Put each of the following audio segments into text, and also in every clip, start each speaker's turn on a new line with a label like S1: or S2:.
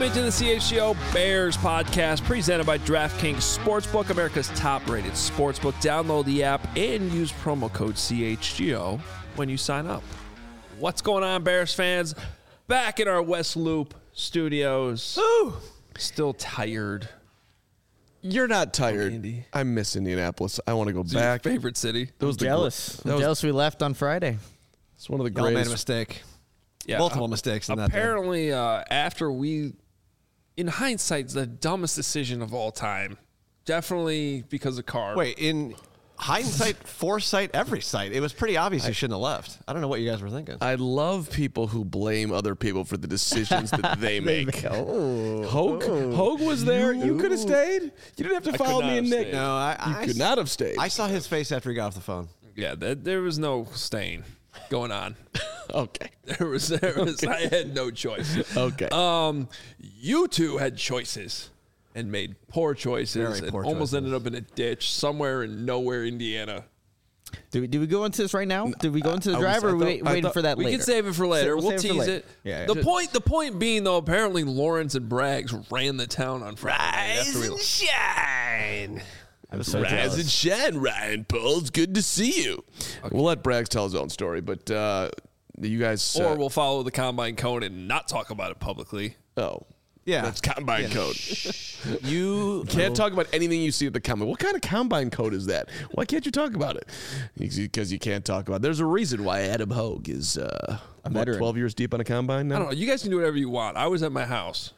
S1: Welcome to the CHGO Bears podcast presented by DraftKings Sportsbook, America's top-rated sportsbook. Download the app and use promo code CHGO when you sign up. What's going on, Bears fans? Back in our West Loop studios.
S2: Ooh.
S1: Still tired.
S2: You're not tired.
S1: Andy.
S2: I miss Indianapolis. I want to go
S1: It's
S2: back.
S1: your favorite city.
S2: That was the
S3: Jealous.
S2: that was-
S3: Jealous we left on Friday.
S2: It's one of the
S4: Y'all made a
S2: greatest.
S4: mistake.
S1: Yeah,
S4: Multiple mistakes in that day.
S1: apparently, after we, in hindsight, it's the dumbest decision of all time. Definitely because of Carr.
S4: Wait, in hindsight, foresight, every sight, it was pretty obvious you shouldn't have left. I don't know what you guys were thinking.
S2: I love people who blame other people for the decisions that they make. Hogue was there. You could have stayed. You didn't have to
S1: could
S2: follow
S1: not
S2: me and
S1: have
S2: Nick.
S1: stayed.
S4: No,
S2: You could not have stayed.
S4: I saw his face after he got off the phone.
S1: Yeah, there was no staying going on.
S2: Okay.
S1: There was I had no choice.
S2: Okay.
S1: You two had choices and made poor choices
S4: Very
S1: and
S4: poor
S1: almost
S4: choices.
S1: ended up in a ditch somewhere in nowhere, Indiana.
S3: Do we go into this right now? Did we go into the
S2: I
S3: drive,
S2: was-
S3: or
S2: I
S3: are we
S2: thought-
S3: waiting for that
S1: We
S3: later?
S1: can save it for later.
S3: We'll
S1: We'll
S3: save it for
S1: tease
S3: later.
S1: it.
S3: Yeah.
S1: The point being though, apparently Lawrence and Braggs ran the town on Friday. After we-
S4: shine.
S3: I was so
S2: Rise
S3: jealous.
S2: and shine, Ryan Paul. It's good to see you. We'll let Braggs tell his own story, but you guys.
S1: Or we'll follow the combine code and not talk about it publicly.
S2: Oh.
S4: Yeah.
S2: That's combine code.
S4: You
S2: Can't talk about anything you see at the combine. What kind of combine code is that? Why can't you talk about it? Because you can't talk about it. There's a reason why Adam Hogue is
S3: veteran.
S2: 12 years deep on a combine now?
S1: I don't know. You guys can do whatever you want. I was at my house.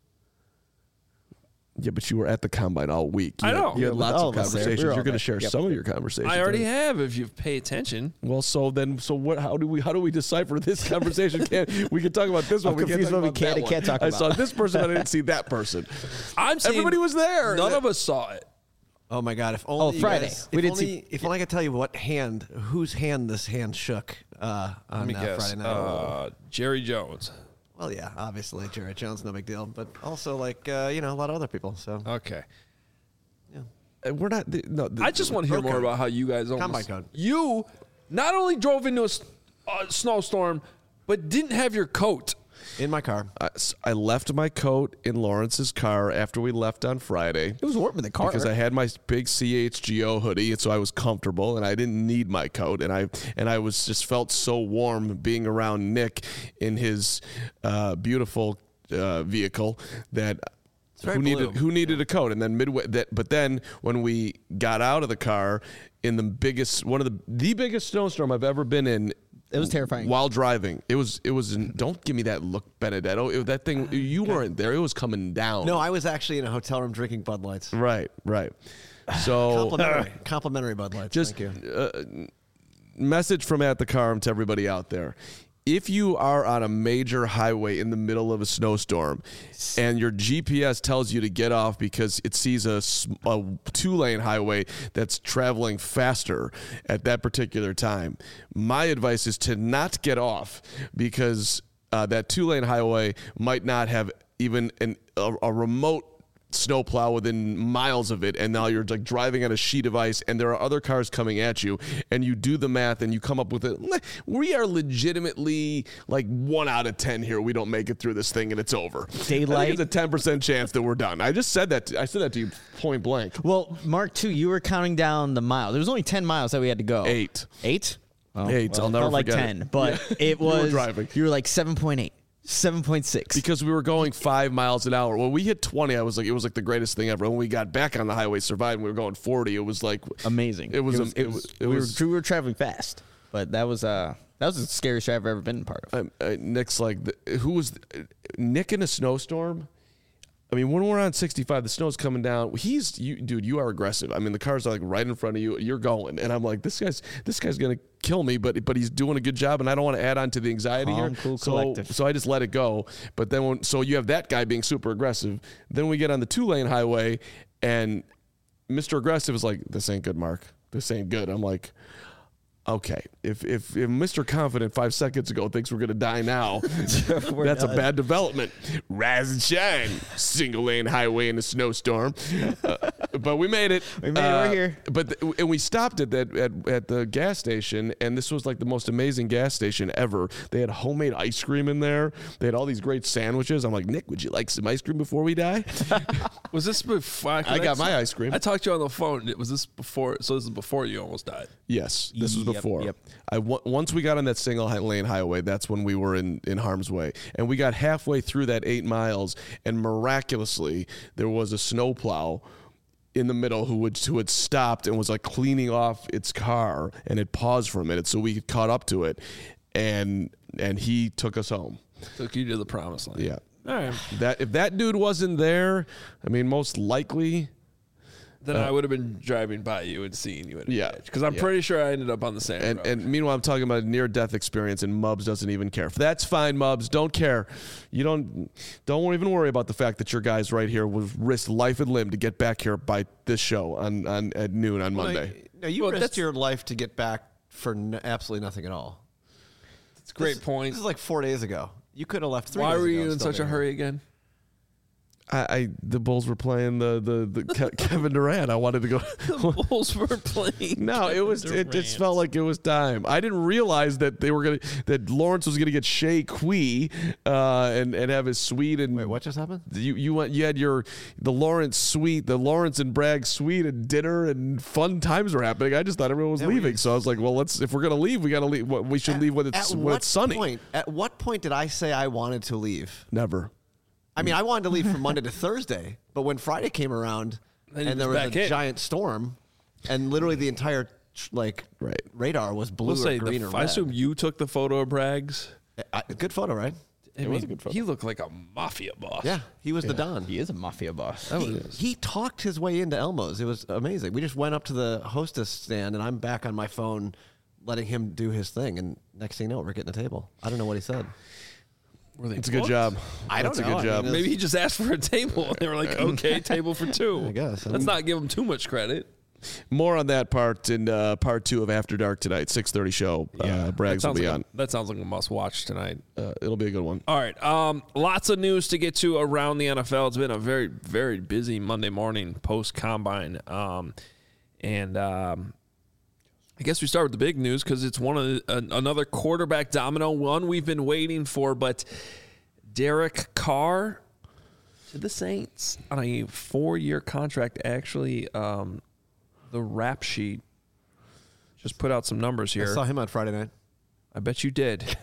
S2: Yeah, but you were at the combine all week.
S1: I know.
S2: You had
S3: Yeah,
S2: lots
S3: all
S2: of
S3: of us there.
S2: conversations.
S3: We were all
S2: You're going to
S3: there.
S2: share
S3: Yep.
S2: some of your conversations.
S1: I already have if you pay attention.
S2: Well, so what? How do we decipher this conversation? We can talk about this one.
S3: I'm
S2: We can't
S3: confused
S2: talk
S3: what we
S2: about
S3: can
S2: that
S3: and
S2: one.
S3: can't talk
S2: I
S3: about.
S2: saw this person, but I didn't see that person.
S1: I'm saying
S2: Everybody was there.
S1: None of us saw it.
S4: Oh my God! If only you
S3: Friday.
S4: guys-
S3: We
S4: if
S3: didn't
S4: only,
S3: see-
S4: If only I could tell you whose hand this hand shook
S1: Let
S4: on
S1: me guess.
S4: Friday night.
S1: Jerry Jones.
S4: Well, yeah, obviously Jared Jones, no big deal, but also like a lot of other people. So
S1: Okay.
S2: We're not. No,
S1: I just want to hear
S4: Road
S1: more
S4: code.
S1: about how you guys
S4: Combine
S1: almost.
S4: code.
S1: You not only drove into a snowstorm, but didn't have your coat.
S4: in my car,
S2: I left my coat in Lawrence's car after we left on Friday.
S3: It was warm in the car.
S2: Because I had my big CHGO hoodie, and so I was comfortable, and I didn't need my coat, and I was just felt so warm being around Nick in his beautiful vehicle that.
S4: very
S2: Who needed a coat? And then but then when we got out of the car in the biggest snowstorm I've ever been in.
S3: It was terrifying.
S2: While driving, it was. Don't give me that look, Benedetto. That thing, you weren't there. It was coming down.
S4: no, I was actually in a hotel room drinking Bud Lights.
S2: Right. So
S4: Complimentary Bud Lights.
S2: just
S4: Thank you.
S2: message from At the Carm to everybody out there. If you are on a major highway in the middle of a snowstorm and your GPS tells you to get off because it sees a 2-lane highway that's traveling faster at that particular time, my advice is to not get off because that 2-lane highway might not have even a remote snowplow within miles of it, and now you're like driving on a sheet of ice and there are other cars coming at you, and you do the math and you come up with it. We are legitimately like 1 out of 10 here. We don't make it through this thing and it's over.
S3: Daylight.
S2: I think it's a 10% chance that we're done. I said that to you point blank.
S3: Well, Mark, too, you were counting down the miles. There was only 10 miles that we had to go.
S2: 8.
S3: 8? Oh,
S2: 8. I'll
S3: it
S2: never
S3: felt like
S2: forget
S3: 10,
S2: it.
S3: but it
S2: You were
S3: was.
S2: driving.
S3: You were like 7.8, 7.6.
S2: Because we were going 5 miles an hour. When we hit 20, it was like the greatest thing ever. When we got back on the highway, survived, and we were going 40. It was like
S3: Amazing.
S2: It was.
S3: We were traveling fast, but that was the scariest drive I've ever been part of.
S2: Nick's like, who was Nick in a snowstorm? I mean, when we're on 65, the snow's coming down. Dude, you are aggressive. I mean, the cars are like right in front of you. You're going, and I'm like, this guy's gonna kill me, but he's doing a good job, and I don't want to add on to the anxiety
S3: Calm,
S2: here.
S3: cool, collective.
S2: So I just let it go. But then so you have that guy being super aggressive. Then we get on the 2-lane highway, and Mr. Aggressive is like, this ain't good, Mark. This ain't good. I'm like, okay, if Mr. Confident 5 seconds ago thinks we're gonna die now, that's a bad development. Rise and shine, single lane highway in a snowstorm. But we made it.
S3: We made it. We're here.
S2: And we stopped at the gas station, and this was like the most amazing gas station ever. They had homemade ice cream in there. They had all these great sandwiches. I'm like, Nick, would you like some ice cream before we die?
S1: Was this before?
S2: I got my ice cream.
S1: I talked to you on the phone. Was this before? So this is before you almost died.
S2: Yes, this was
S3: Yep,
S2: before.
S3: yep.
S2: Once we got on that single lane highway, that's when we were in harm's way. And we got halfway through that 8 miles, and miraculously, there was a snowplow in the middle who had stopped and was like cleaning off its car, and it paused for a minute so we caught up to it, and he took us home.
S1: Took you to the promised land.
S2: Yeah.
S1: All right.
S2: That if that dude wasn't there, I mean, most likely.
S1: Then I would have been driving by you and seeing you at a
S2: Yeah.
S1: because I'm pretty sure I ended up on the same road.
S2: And meanwhile, I'm talking about a near-death experience, and Mubs doesn't even care. That's fine, Mubs. Don't care. You don't even worry about the fact that your guys right here will risk life and limb to get back here by this show at noon on Monday.
S4: No, you risked your life to get back for absolutely nothing at all.
S1: It's a great point.
S4: This is like 4 days ago. You could have left 3 days
S1: Why
S4: ago.
S1: were you
S4: and
S1: in
S4: still
S1: such a
S4: been
S1: hurry again?
S2: The Bulls were playing the Kevin Durant. I wanted to go.
S1: The Bulls were playing.
S2: No, it just felt like it was time. I didn't realize that that Lawrence was gonna get Shea Quee and have his suite. And
S4: Wait, what just happened?
S2: You had the Lawrence suite, the Lawrence and Bragg suite, and dinner and fun times were happening. I just thought everyone was leaving, so I was like, well, if we're gonna leave, we gotta leave. We should leave when it's sunny.
S4: At what point did I say I wanted to leave?
S2: Never.
S4: I mean, I wanted to leave from Monday to Thursday, but when Friday came around and there was a giant storm, and literally the entire radar was blue or green or red.
S1: I assume you took the photo of Bragg's.
S4: Good photo, right?
S1: It
S3: was a good photo.
S1: He looked like a mafia boss.
S4: Yeah, he was the Don.
S3: He is a mafia boss.
S4: He talked his way into Elmo's. It was amazing. We just went up to the hostess stand, and I'm back on my phone letting him do his thing. And next thing you know, we're getting a table. I don't know what he said.
S2: It's a good job.
S4: That's
S2: a good job.
S1: Maybe he just asked for a table, and they were like, "Okay, table for two."
S4: I guess.
S1: Let's not give him too much credit.
S2: More on that part in part 2 of After Dark tonight, 6:30 show. Braggs will be on.
S1: That sounds like a must-watch tonight.
S2: It'll be a good one.
S1: All right. Lots of news to get to around the NFL. It's been a very, very busy Monday morning post-combine. I guess we start with the big news because it's another quarterback domino, one we've been waiting for. But Derek Carr to the Saints on a 4-year contract. Actually, the rap sheet just put out some numbers here.
S4: I saw him on Friday night.
S1: I bet you did.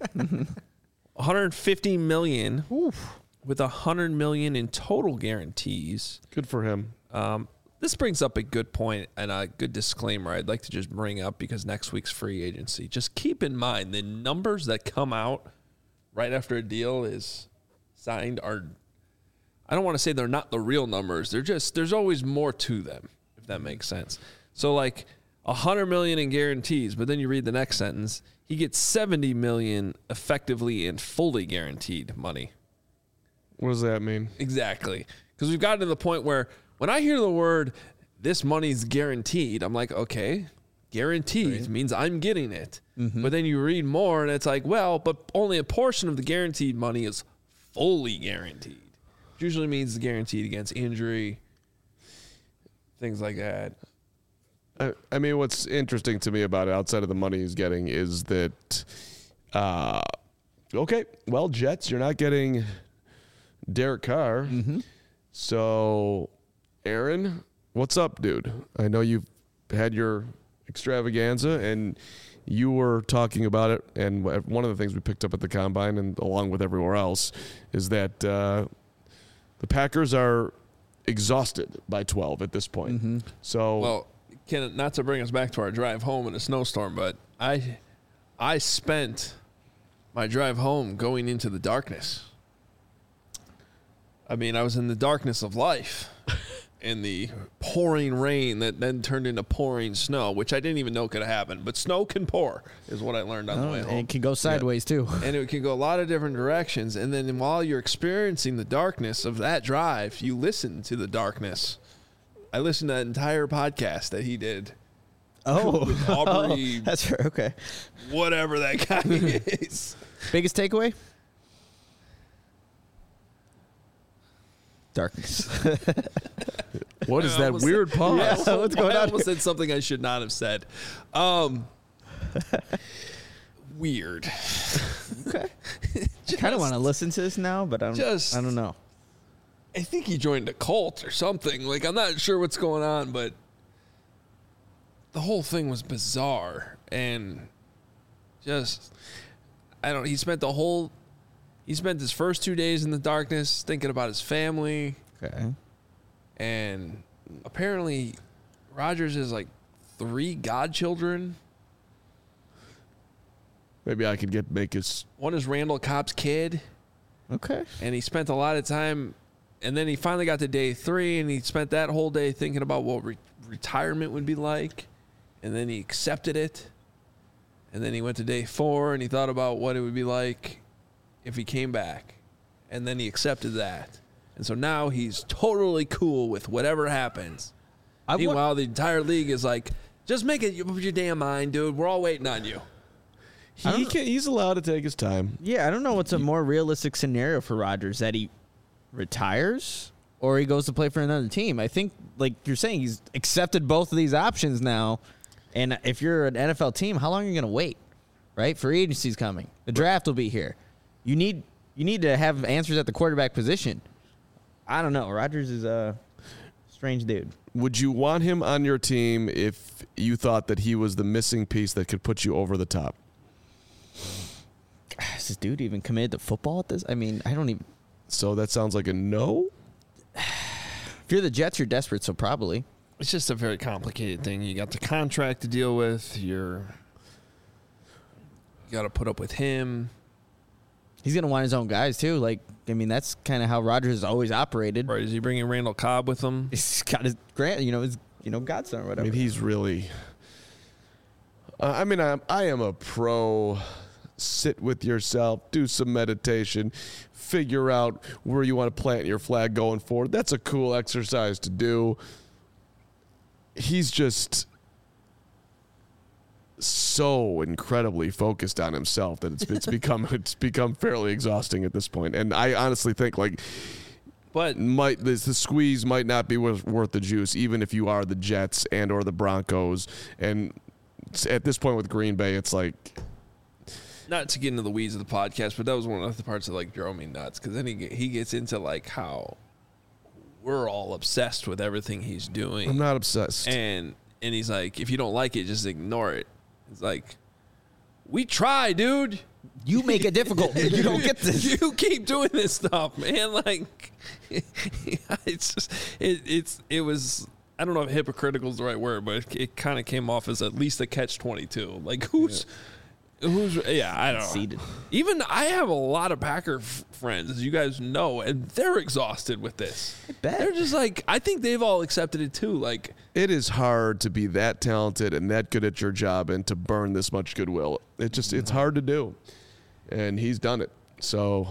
S1: $150 million with $100 million in total guarantees.
S2: Good for him.
S1: This brings up a good point and a good disclaimer I'd like to just bring up because next week's free agency. Just keep in mind the numbers that come out right after a deal is signed are, I don't want to say they're not the real numbers. There's always more to them, if that makes sense. So like $100 million in guarantees, but then you read the next sentence, he gets $70 million effectively in fully guaranteed money.
S2: What does that mean?
S1: Exactly. Because we've gotten to the point where when I hear the word, this money's guaranteed, I'm like, okay, guaranteed means I'm getting it. Mm-hmm. But then you read more and it's like, well, but only a portion of the guaranteed money is fully guaranteed. Which usually means it's guaranteed against injury, things like that.
S2: I mean, what's interesting to me about it, outside of the money he's getting, is that, okay, well, Jets, you're not getting Derek Carr. Mm-hmm. So, Aaron, what's up, dude? I know you've had your extravaganza, and you were talking about it, and one of the things we picked up at the Combine, and along with everywhere else, is that the Packers are exhausted by 12 at this point. Mm-hmm. So,
S1: well, not to bring us back to our drive home in a snowstorm, but I spent my drive home going into the darkness. I mean, I was in the darkness of life in the pouring rain that then turned into pouring snow, which I didn't even know could happen. But snow can pour is what I learned on the way home.
S3: And it can go sideways, too.
S1: And it can go a lot of different directions. And then while you're experiencing the darkness of that drive, you listen to the darkness. I listened to that entire podcast that he did.
S3: Oh.
S1: With Aubrey.
S3: That's right. Okay.
S1: Whatever that guy is.
S3: Biggest takeaway? Darkness.
S2: What is that weird pause?
S3: Yeah, what's going on?
S1: I almost said something I should not have said. Weird.
S3: Okay. I kind of want to listen to this now, but I don't know.
S1: I think he joined a cult or something. Like, I'm not sure what's going on, but the whole thing was bizarre. And just, he spent his first 2 days in the darkness thinking about his family.
S3: Okay.
S1: And apparently Rodgers has like 3 godchildren.
S2: Maybe I could make his...
S1: One is Randall Cobb's kid.
S3: Okay.
S1: And he spent a lot of time, and then he finally got to day 3, and he spent that whole day thinking about what retirement would be like. And then he accepted it. And then he went to day 4, and he thought about what it would be like if he came back. And then he accepted that. And so now he's totally cool with whatever happens. Meanwhile, the entire league is like, just make it up your damn mind, dude. We're all waiting on you.
S2: He's allowed to take his time.
S3: Yeah, I don't know what's a more realistic scenario for Rodgers, that he retires or he goes to play for another team. I think, like you're saying, he's accepted both of these options now. And if you're an NFL team, how long are you going to wait? Right? Free agency's coming. The draft will be here. You need to have answers at the quarterback position. I don't know. Rodgers is a strange dude.
S2: Would you want him on your team if you thought that he was the missing piece that could put you over the top?
S3: Is this dude even committed to football at this? I mean, I don't even.
S2: So that sounds like a no?
S3: If you're the Jets, you're desperate, so probably.
S1: It's just a very complicated thing. You got the contract to deal with. You got to put up with him.
S3: He's going to want his own guys, too. Like, I mean, that's kind of how Rodgers has always operated.
S1: Right. Is he bringing Randall Cobb with him?
S3: He's got his godson or whatever.
S2: I mean, he's really... I am a pro... Sit with yourself, do some meditation, figure out where you want to plant your flag going forward. That's a cool exercise to do. He's just so incredibly focused on himself that it's become fairly exhausting at this point. And I honestly think the squeeze might not be worth the juice, even if you are the Jets and or the Broncos. And at this point with Green Bay, it's like.
S1: Not to get into the weeds of the podcast, but that was one of the parts that like drove me nuts, because then he gets into like how we're all obsessed with everything he's doing.
S2: I'm not obsessed.
S1: And he's like, if you don't like it, just ignore it. It's like, we try, dude.
S3: You make it difficult. You don't get this.
S1: You keep doing this stuff, man. Like, it's just it was. I don't know if hypocritical is the right word, but it kind of came off as at least a catch-22. Like, who's I don't know.
S3: Seated.
S1: Even I have a lot of Packer friends, as you guys know, and they're exhausted with this.
S3: I bet.
S1: They're just like, I think they've all accepted it too. Like,
S2: it is hard to be that talented and that good at your job and to burn this much goodwill. It's hard to do. And he's done it. So,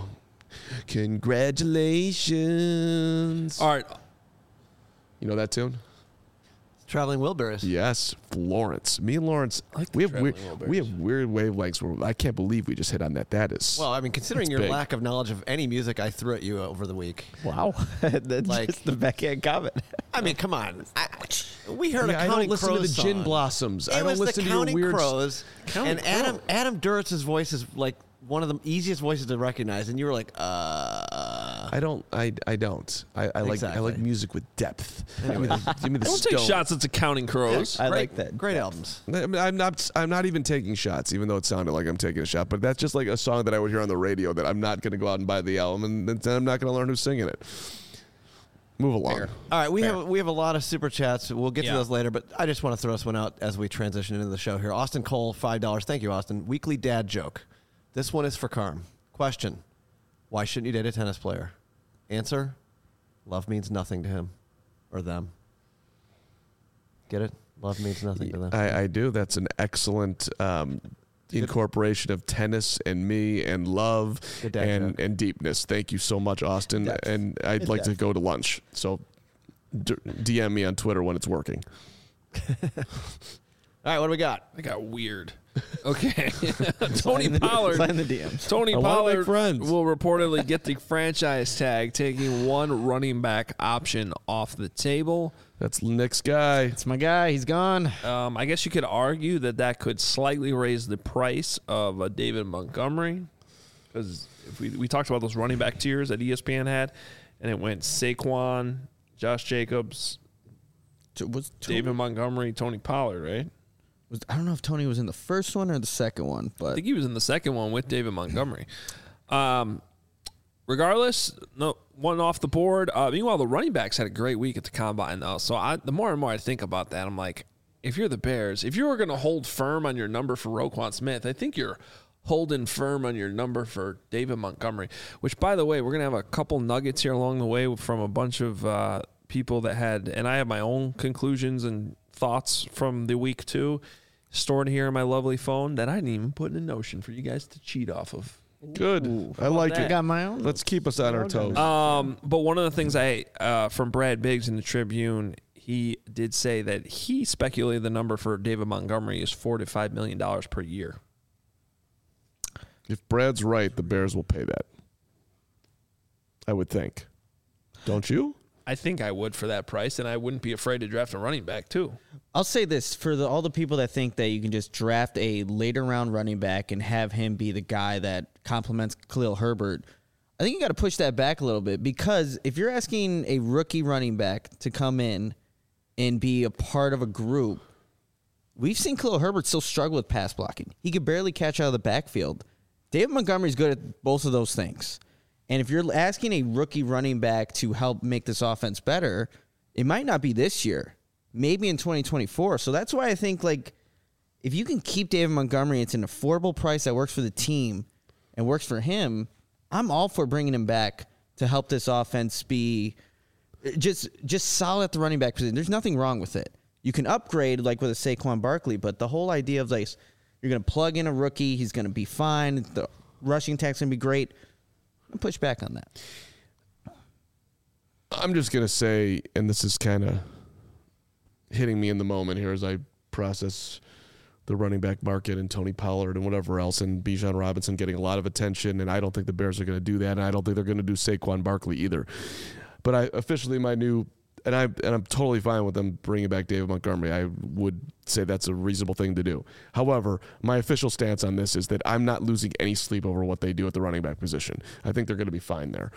S2: congratulations.
S1: All right.
S2: You know that tune?
S4: Traveling Wilburys.
S2: Yes, Lawrence. Me and Lawrence, we have weird wavelengths where I can't believe we just hit on that. That is
S4: well, I mean, considering your
S2: big.
S4: lack of knowledge of any music I threw at you over the week.
S3: Wow, that's
S4: like,
S3: just the backhand comment.
S4: I mean, come on. We heard a
S2: I
S4: Counting
S2: don't listen
S4: Crows
S2: to the
S4: song.
S2: Gin Blossoms.
S4: It
S2: I don't
S4: was
S2: listen
S4: the
S2: to your
S4: Counting
S2: weird
S4: Crows,
S2: Counting
S4: and Adam Duritz's voice is like one of the easiest voices to recognize, and you were like,
S2: I don't. I
S4: Exactly.
S2: like music with depth.
S4: Anyway.
S2: Give me the
S1: Don't
S2: stone.
S1: take shots at the Counting Crows.
S3: I like that.
S4: Great albums.
S2: I'm not even taking shots, even though it sounded like I'm taking a shot. But that's just like a song that I would hear on the radio that I'm not going to go out and buy the album, and then I'm not going to learn who's singing it. Move along.
S3: Fair.
S4: All right, we have a lot of super chats. We'll get to
S3: Yeah.
S4: those later, but I just want to throw this one out as we transition into the show here. Austin Cole, $5. Thank you, Austin. Weekly dad joke. This one is for Carm. Question: why shouldn't you date a tennis player? Answer: love means nothing to him or them. Get it? Love means nothing to them.
S2: I do. That's an excellent incorporation of tennis and me and love
S4: Good dad joke.
S2: and deepness. Thank you so much, Austin.
S3: Depth.
S2: And I'd like to
S3: depth.
S2: go to lunch. So DM me on Twitter when it's working.
S4: All right, what do we got?
S1: I got weird. Okay. Tony Pollard.
S3: Slide in the DMs.
S1: Tony
S2: I wanna
S1: Pollard
S2: make friends.
S1: will reportedly get the franchise tag, taking one running back option off the table.
S2: That's Nick's guy.
S3: It's my guy. He's gone.
S1: I guess you could argue that could slightly raise the price of David Montgomery, because if we talked about those running back tiers that ESPN had, and it went Saquon, Josh Jacobs, David Montgomery, Tony Pollard, right?
S3: I don't know if Tony was in the first one or the second one,
S1: I
S3: but
S1: think he was in the second one with David Montgomery. Regardless, no one off the board. Meanwhile, the running backs had a great week at the combine, though. So the more and more I think about that, I'm like, if you're the Bears, if you were going to hold firm on your number for Roquan Smith, I think you're holding firm on your number for David Montgomery, which, by the way, we're going to have a couple nuggets here along the way from a bunch of people that had, and I have my own conclusions and thoughts from the week too, stored here in my lovely phone that I didn't even put in a Notion for you guys to cheat off of.
S2: Good. I like
S1: that?
S2: it.
S3: I got my own.
S2: Let's keep us on our toes.
S1: But one of the things from Brad Biggs in the Tribune, he did say that he speculated the number for David Montgomery is $4 to $5 million per year.
S2: If Brad's right, the Bears will pay that. I would think. Don't you?
S1: I think I would for that price, and I wouldn't be afraid to draft a running back too.
S3: I'll say this for all the people that think that you can just draft a later round running back and have him be the guy that complements Khalil Herbert. I think you got to push that back a little bit, because if you're asking a rookie running back to come in and be a part of a group, we've seen Khalil Herbert still struggle with pass blocking. He could barely catch out of the backfield. David Montgomery's good at both of those things. And if you're asking a rookie running back to help make this offense better, it might not be this year, maybe in 2024. So that's why I think, like, if you can keep David Montgomery, it's an affordable price that works for the team and works for him, I'm all for bringing him back to help this offense be just solid at the running back position. There's nothing wrong with it. You can upgrade like with a Saquon Barkley, but the whole idea of, like, you're going to plug in a rookie, he's going to be fine, the rushing attack's going to be great. I'll push back on that.
S2: I'm just going to say, and this is kind of hitting me in the moment here as I process the running back market and Tony Pollard and whatever else, and Bijan Robinson getting a lot of attention, and I don't think the Bears are going to do that, and I don't think they're going to do Saquon Barkley either. But I officially, my new, and I'm totally fine with them bringing back David Montgomery. I would say that's a reasonable thing to do. However, my official stance on this is that I'm not losing any sleep over what they do at the running back position. I think they're going to be fine there.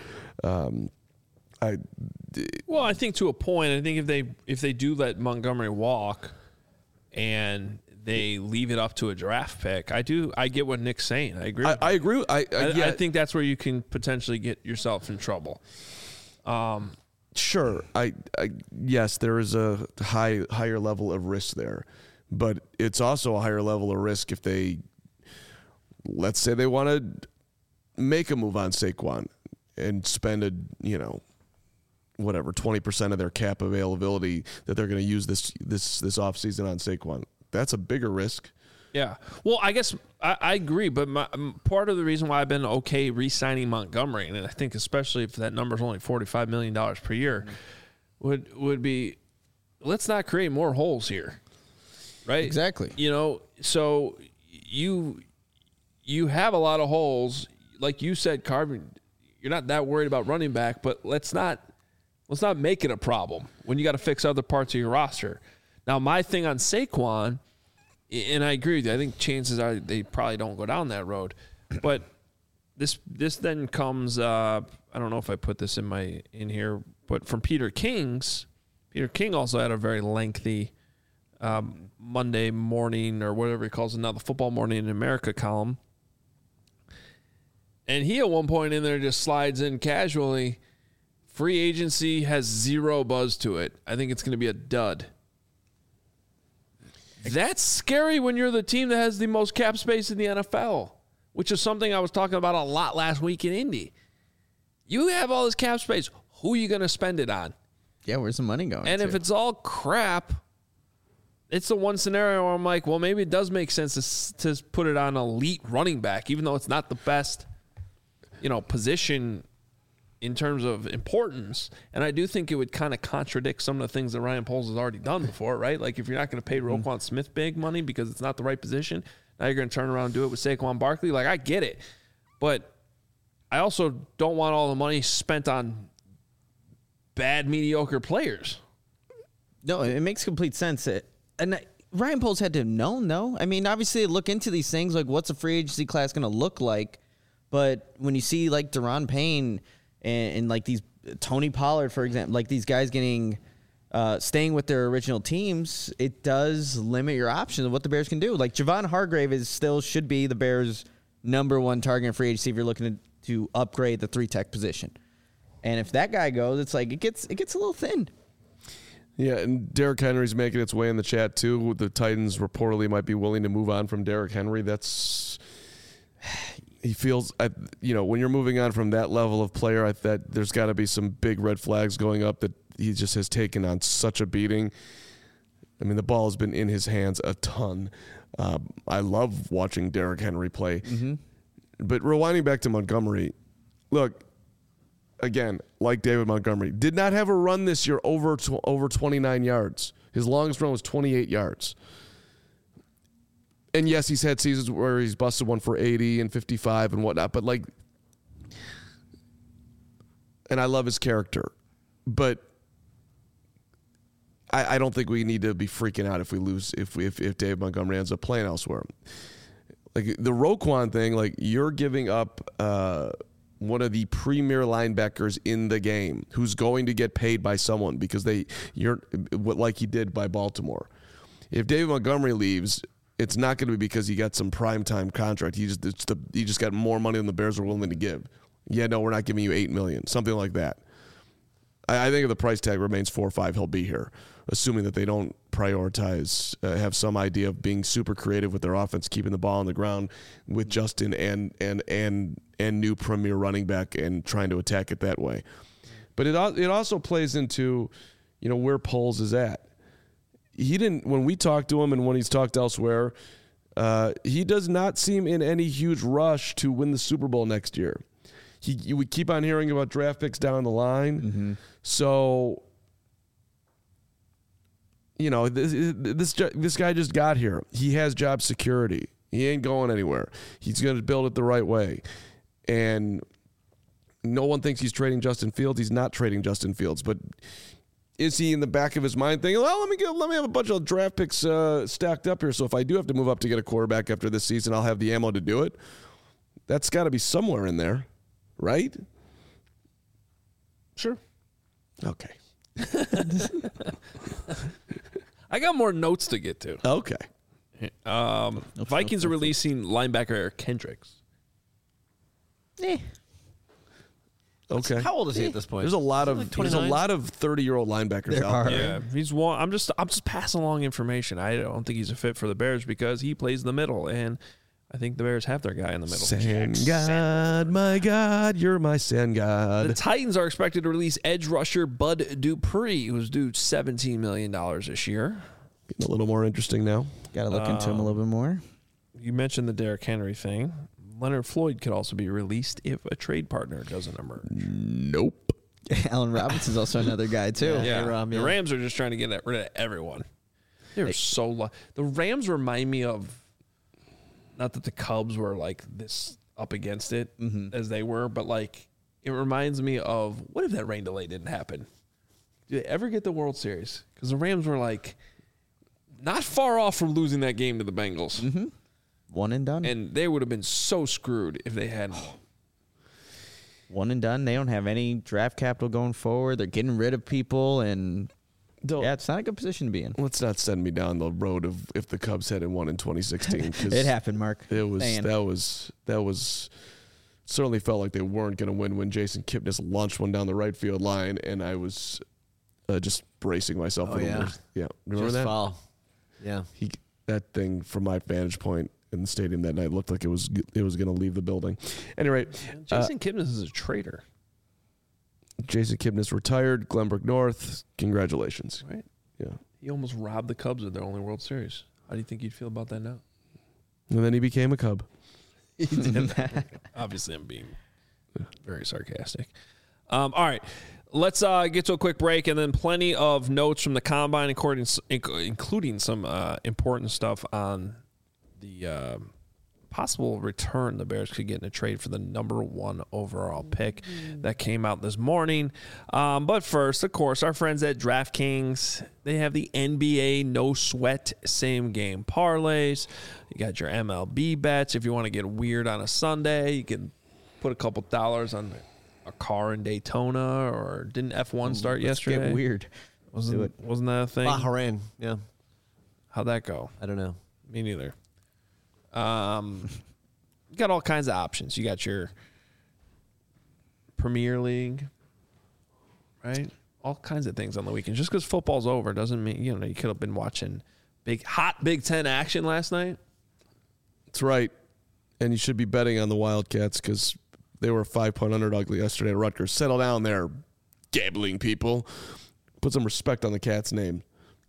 S1: I think to a point, I think if they do let Montgomery walk and they leave it up to a draft pick, I get what Nick's saying. I agree.
S2: I agree.
S1: I think that's where you can potentially get yourself in trouble.
S2: Sure. Yes, there is a higher level of risk there, but it's also a higher level of risk if let's say they want to make a move on Saquon and spend 20% of their cap availability that they're going to use this offseason on Saquon. That's a bigger risk.
S1: Yeah. Well, I guess I agree, but part of the reason why I've been okay re-signing Montgomery, and I think especially if that number is only $45 million per year, would be, let's not create more holes here, right?
S3: Exactly.
S1: So you have a lot of holes. Like you said, Carvin, you're not that worried about running back, but let's not make it a problem when you got to fix other parts of your roster. Now, my thing on Saquon, and I agree with you, I think chances are they probably don't go down that road. But this then comes, I don't know if I put this in here, but from Peter King also had a very lengthy Monday morning, or whatever he calls it now, the Football Morning in America column. And he at one point in there just slides in casually, free agency has zero buzz to it. I think it's going to be a dud. That's scary when you're the team that has the most cap space in the NFL, which is something I was talking about a lot last week in Indy. You have all this cap space. Who are you going to spend it on?
S3: Yeah, where's the money going?
S1: And if it's all crap, it's the one scenario where I'm like, well, maybe it does make sense to put it on elite running back, even though it's not the best, position in terms of importance. And I do think it would kind of contradict some of the things that Ryan Poles has already done before, right? Like if you're not going to pay Roquan Smith big money because it's not the right position, Now you're going to turn around and do it with Saquon Barkley. Like, I get it. But I also don't want all the money spent on bad, mediocre players.
S3: No, it makes complete sense. Ryan Poles had to have known, though. I mean, obviously, look into these things, like what's a free agency class going to look like? But when you see, like, Deron Payne and like, these Tony Pollard, for example, like, these guys staying with their original teams, it does limit your options of what the Bears can do. Like, Javon Hargrave should be the Bears' #1 target in free agency if you're looking to upgrade the 3-tech position. And if that guy goes, it's like it gets a little thin.
S2: Yeah, and Derrick Henry's making its way in the chat too. The Titans reportedly might be willing to move on from Derrick Henry. He feels, when you're moving on from that level of player, that there's got to be some big red flags going up that he just has taken on such a beating. I mean, the ball has been in his hands a ton. I love watching Derrick Henry play. Mm-hmm. But rewinding back to Montgomery, look, again, like David Montgomery, did not have a run this year over 29 yards. His longest run was 28 yards. And yes, he's had seasons where he's busted one for 80 and 55 and whatnot, but and I love his character, but I don't think we need to be freaking out if we lose, if David Montgomery ends up playing elsewhere. Like the Roquan thing, like you're giving up one of the premier linebackers in the game who's going to get paid by someone because like he did by Baltimore. If David Montgomery leaves, it's not going to be because he got some primetime contract. He just got more money than the Bears are willing to give. Yeah, no, we're not giving you $8 million, something like that. I think if the price tag remains 4 or 5, he'll be here, assuming that they don't prioritize, have some idea of being super creative with their offense, keeping the ball on the ground with Justin and new premier running back and trying to attack it that way. But it also plays into, where Poles is at. He didn't, when we talked to him and when he's talked elsewhere, he does not seem in any huge rush to win the Super Bowl next year. We keep on hearing about draft picks down the line. Mm-hmm. So, this guy just got here. He has job security. He ain't going anywhere. He's going to build it the right way. And no one thinks he's trading Justin Fields. He's not trading Justin Fields. But is he in the back of his mind thinking, well, let me have a bunch of draft picks stacked up here, so if I do have to move up to get a quarterback after this season, I'll have the ammo to do it? That's got to be somewhere in there, right?
S1: Sure.
S2: Okay.
S1: I got more notes to get to.
S2: Okay.
S1: Vikings are releasing linebacker Eric Kendricks.
S2: Okay.
S4: How old is he at this point?
S2: There's a lot of 30-year-old linebackers
S3: There
S2: out
S3: are.
S2: there.
S1: Yeah, he's one. I'm just passing along information. I don't think he's a fit for the Bears because he plays in the middle, and I think the Bears have their guy in the middle.
S2: Sand God, my God, you're my sand God.
S1: The Titans are expected to release edge rusher Bud Dupree, who's due $17 million this year.
S2: Getting a little more interesting now.
S3: Got to look into him a little bit more.
S1: You mentioned the Derrick Henry thing. Leonard Floyd could also be released if a trade partner doesn't emerge.
S2: Nope.
S3: Allen Robinson's also another guy, too.
S1: Yeah. The Rams are just trying to get rid of everyone. They're so low. The Rams remind me of, not that the Cubs were like this up against it as they were, but like it reminds me of, what if that rain delay didn't happen? Did they ever get the World Series? Because the Rams were like not far off from losing that game to the Bengals.
S3: Mm-hmm. One and done.
S1: And they would have been so screwed if they hadn't.
S3: One and done. They don't have any draft capital going forward. They're getting rid of people, and it's not a good position to be in.
S2: Let's not send me down the road of if the Cubs hadn't won in 2016. 'Cause
S3: it happened, Mark.
S2: That was certainly felt like they weren't going to win when Jason Kipnis launched one down the right field line, and I was just bracing myself. Remember
S4: just
S2: that?
S4: Foul. Yeah.
S2: That thing from my vantage point in the stadium that night looked like it was going to leave the building. Anyway,
S1: Jason Kipnis is a traitor.
S2: Jason Kipnis retired. Glenbrook North. Congratulations.
S1: Right?
S2: Yeah.
S1: He almost robbed the Cubs of their only World Series. How do you think you'd feel about that now?
S2: And then he became a Cub.
S1: Obviously, I'm being very sarcastic. All right. Let's get to a quick break and then plenty of notes from the Combine, including some important stuff on the possible return the Bears could get in a trade for the number 1 overall pick that came out this morning. But first, of course, our friends at DraftKings, they have the NBA no sweat same game parlays. You got your MLB bets. If you want to get weird on a Sunday, you can put a couple dollars on a car in Daytona, or didn't F1 start yesterday?
S3: Get weird.
S1: Wasn't that a thing?
S4: Bahrain, yeah.
S1: How'd that go?
S4: I don't know.
S1: Me neither. You got all kinds of options. You got your Premier League, right? All kinds of things on the weekend. Just because football's over doesn't mean, you could have been watching hot Big Ten action last night.
S2: That's right. And you should be betting on the Wildcats because they were a 5-point underdog yesterday at Rutgers. Settle down there, gambling people. Put some respect on the Cats' name.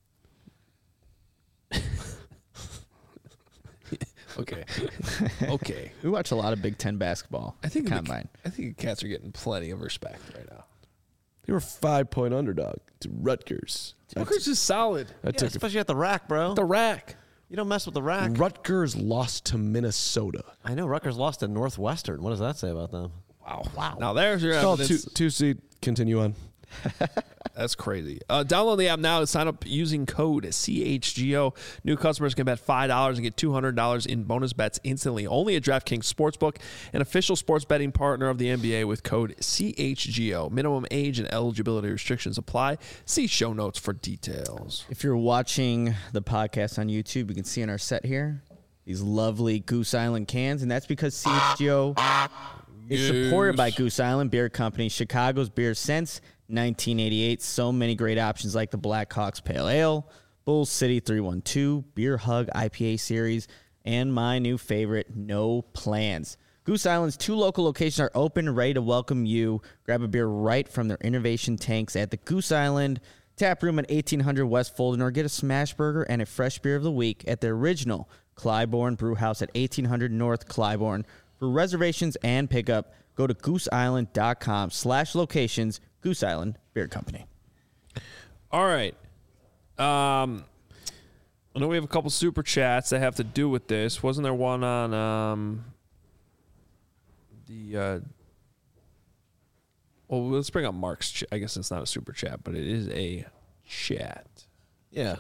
S1: Okay. Okay.
S3: We watch a lot of Big Ten basketball.
S1: I think
S3: combine.
S1: I think the Cats are getting plenty of respect right now.
S2: They were a 5-point underdog to Rutgers.
S1: Rutgers is solid.
S4: Especially at the rack, bro.
S1: The rack.
S4: You don't mess with the rack.
S2: Rutgers lost to Minnesota.
S4: I know Rutgers lost to Northwestern. What does that say about them?
S1: Wow. Now there's your
S2: Call
S1: evidence.
S2: 2 seed. Continue on.
S1: That's crazy. Download the app now to sign up using code CHGO. New customers can bet $5 and get $200 in bonus bets instantly. Only at DraftKings Sportsbook, an official sports betting partner of the NBA with code CHGO. Minimum age and eligibility restrictions apply. See show notes for details.
S3: If you're watching the podcast on YouTube, you can see in our set here these lovely Goose Island cans, and that's because CHGO is supported by Goose Island Beer Company, Chicago's beer since 1988. So many great options like the Blackhawks Pale Ale, Bull City 312, Beer Hug IPA series, and my new favorite, No Plans. Goose Island's 2 local locations are open and ready to welcome you. Grab a beer right from their innovation tanks at the Goose Island Tap Room at 1800 West Fulton, or get a smash burger and a fresh beer of the week at the original Clybourne Brew House at 1800 North Clybourne. For reservations and pickup, go to gooseisland.com/locations. Goose Island Beer Company.
S1: All right. I know we have a couple super chats that have to do with this. Wasn't there one on well, let's bring up Mark's. I guess it's not a super chat, but it is a chat.
S4: Yeah.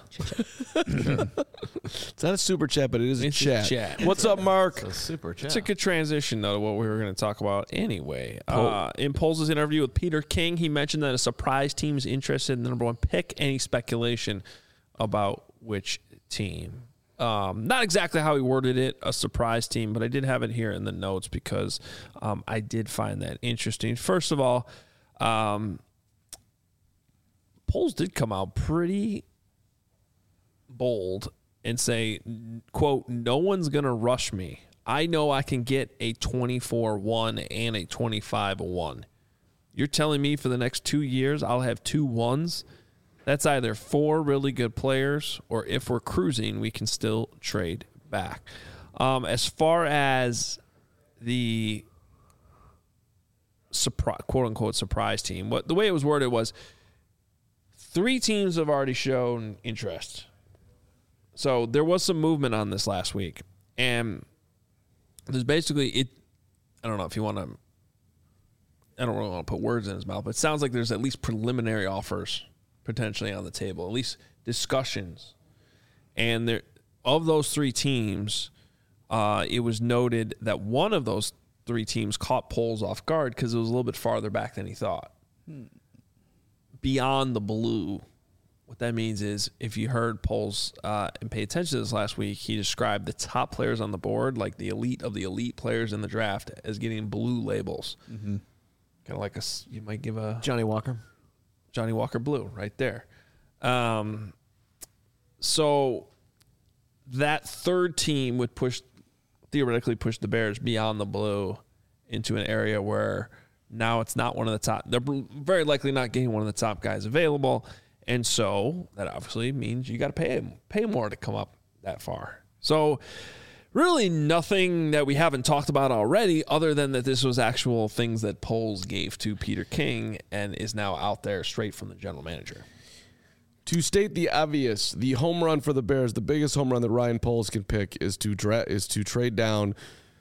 S2: It's not a super chat, but it is a chat. What's up, Mark?
S4: It's a super chat.
S1: It's a good transition, though, to what we were going to talk about anyway. In Poles' interview with Peter King, he mentioned that a surprise team is interested in the number 1 pick. Any speculation about which team? Not exactly how he worded it, a surprise team, but I did have it here in the notes because I did find that interesting. First of all, Poles did come out pretty bold and say, quote, "No one's going to rush me. I know I can get a 24-1 and a 25-1. You're telling me for the next 2 years I'll have 2 1s? That's either 4 really good players, or if we're cruising, we can still trade back." As far as the quote-unquote surprise team, the way it was worded was 3 teams have already shown interest. So there was some movement on this last week. And there's basically I don't know if you want to, I don't really want to put words in his mouth, but it sounds like there's at least preliminary offers potentially on the table, at least discussions. And there, of those 3 teams, it was noted that one of those 3 teams caught Poles off guard because it was a little bit farther back than he thought. Beyond the blue. What that means is, if you heard Poles and pay attention to this last week, he described the top players on the board, like the elite of the elite players in the draft, as getting blue labels. Mm-hmm. Kind of like you might give a
S4: Johnny Walker
S1: blue right there. So that 3rd team would theoretically push the Bears beyond the blue into an area where now it's not one of the top. They're very likely not getting one of the top guys available. And so that obviously means you got to pay more to come up that far. So really nothing that we haven't talked about already, other than that this was actual things that Poles gave to Peter King and is now out there straight from the general manager.
S2: To state the obvious, the home run for the Bears, the biggest home run that Ryan Poles can pick is to trade down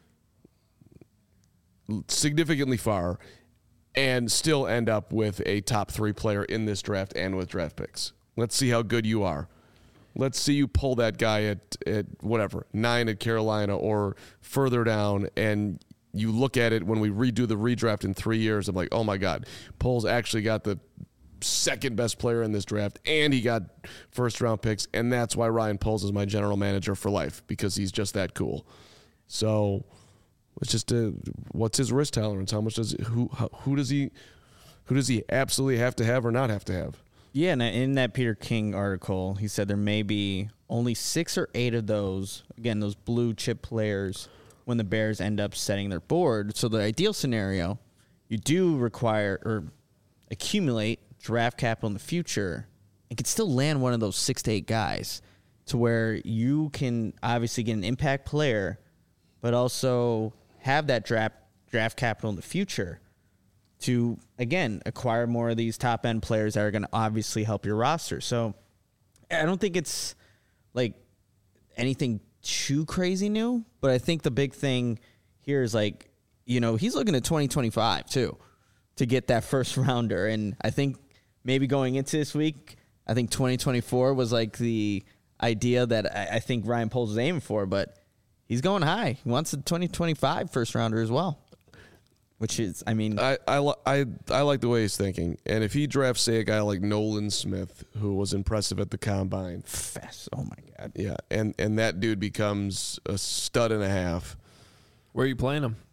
S2: significantly far and still end up with a top 3 player in this draft and with draft picks. Let's see how good you are. Let's see you pull that guy at whatever, 9 at Carolina or further down, and you look at it when we redo the redraft in 3 years. I'm like, oh my God, Poles actually got the second best player in this draft, and he got first round picks, and that's why Ryan Poles is my general manager for life, because he's just that cool. So it's just what's his risk tolerance? How much does who does he absolutely have to have or not have to have?
S3: Yeah, and in that Peter King article, he said there may be only 6 or 8 of those, again, those blue chip players, when the Bears end up setting their board. So the ideal scenario, you do require or accumulate draft capital in the future and could still land one of those 6 to 8 guys to where you can obviously get an impact player, but also have that draft capital in the future to, again, acquire more of these top-end players that are going to obviously help your roster. So I don't think it's like anything too crazy new, but I think the big thing here is like, you know, he's looking at 2025 too to get that first rounder. And I think maybe going into this week, I think 2024 was like the idea that I think Ryan Poles was aiming for, but he's going high. He wants a 2025 first rounder as well, which is, I mean,
S2: I like the way he's thinking. And if he drafts, say, a guy like Nolan Smith, who was impressive at the combine,
S3: fast. Oh my God.
S2: yeah, and that dude becomes a stud and a half.
S1: Where are you playing him?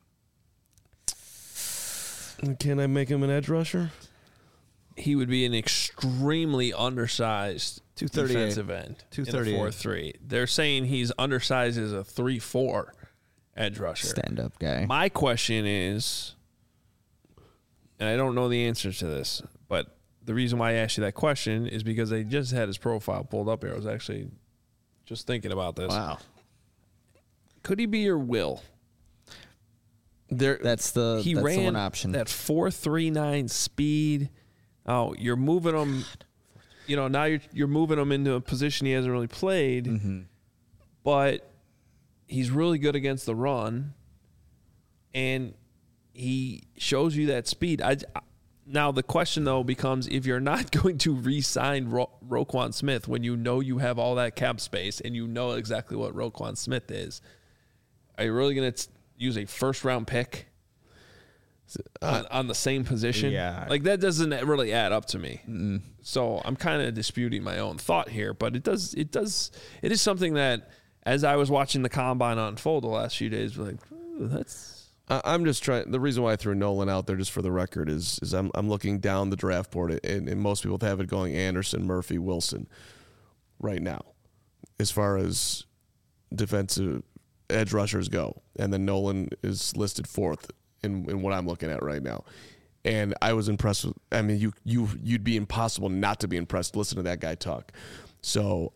S2: Can I make him an edge rusher?
S1: He would be an extremely undersized
S4: 238.
S1: defensive end.
S4: 238.
S1: 4-3. They're saying he's undersized as a 3-4 edge rusher.
S3: Stand-up guy.
S1: My question is, and I don't know the answer to this, but the reason why I asked you that question is because I just had his profile pulled up here. I was actually just thinking about this.
S3: Wow.
S1: Could he be your Will?
S3: That's the one option.
S1: That 4.39 speed. Oh, you're moving him. You know, now you're moving him into a position he hasn't really played.
S3: Mm-hmm.
S1: But he's really good against the run, and he shows you that speed. Now the question though becomes, if you're not going to re-sign Roquan Smith when you know you have all that cap space and you know exactly what Roquan Smith is, are you really going to use a first-round pick on the same position?
S3: Yeah.
S1: Like, that doesn't really add up to me.
S3: Mm-mm.
S1: So I'm kind of disputing my own thought here, but it is something that, as I was watching the combine unfold the last few days, like, that's.
S2: I'm just trying. The reason why I threw Nolan out there, just for the record, is I'm looking down the draft board, and most people have it going Anderson, Murphy, Wilson right now, as far as defensive edge rushers go, and then Nolan is listed 4th in what I'm looking at right now. And I was impressed with. I mean, you'd be impossible not to be impressed. Listen to that guy talk. So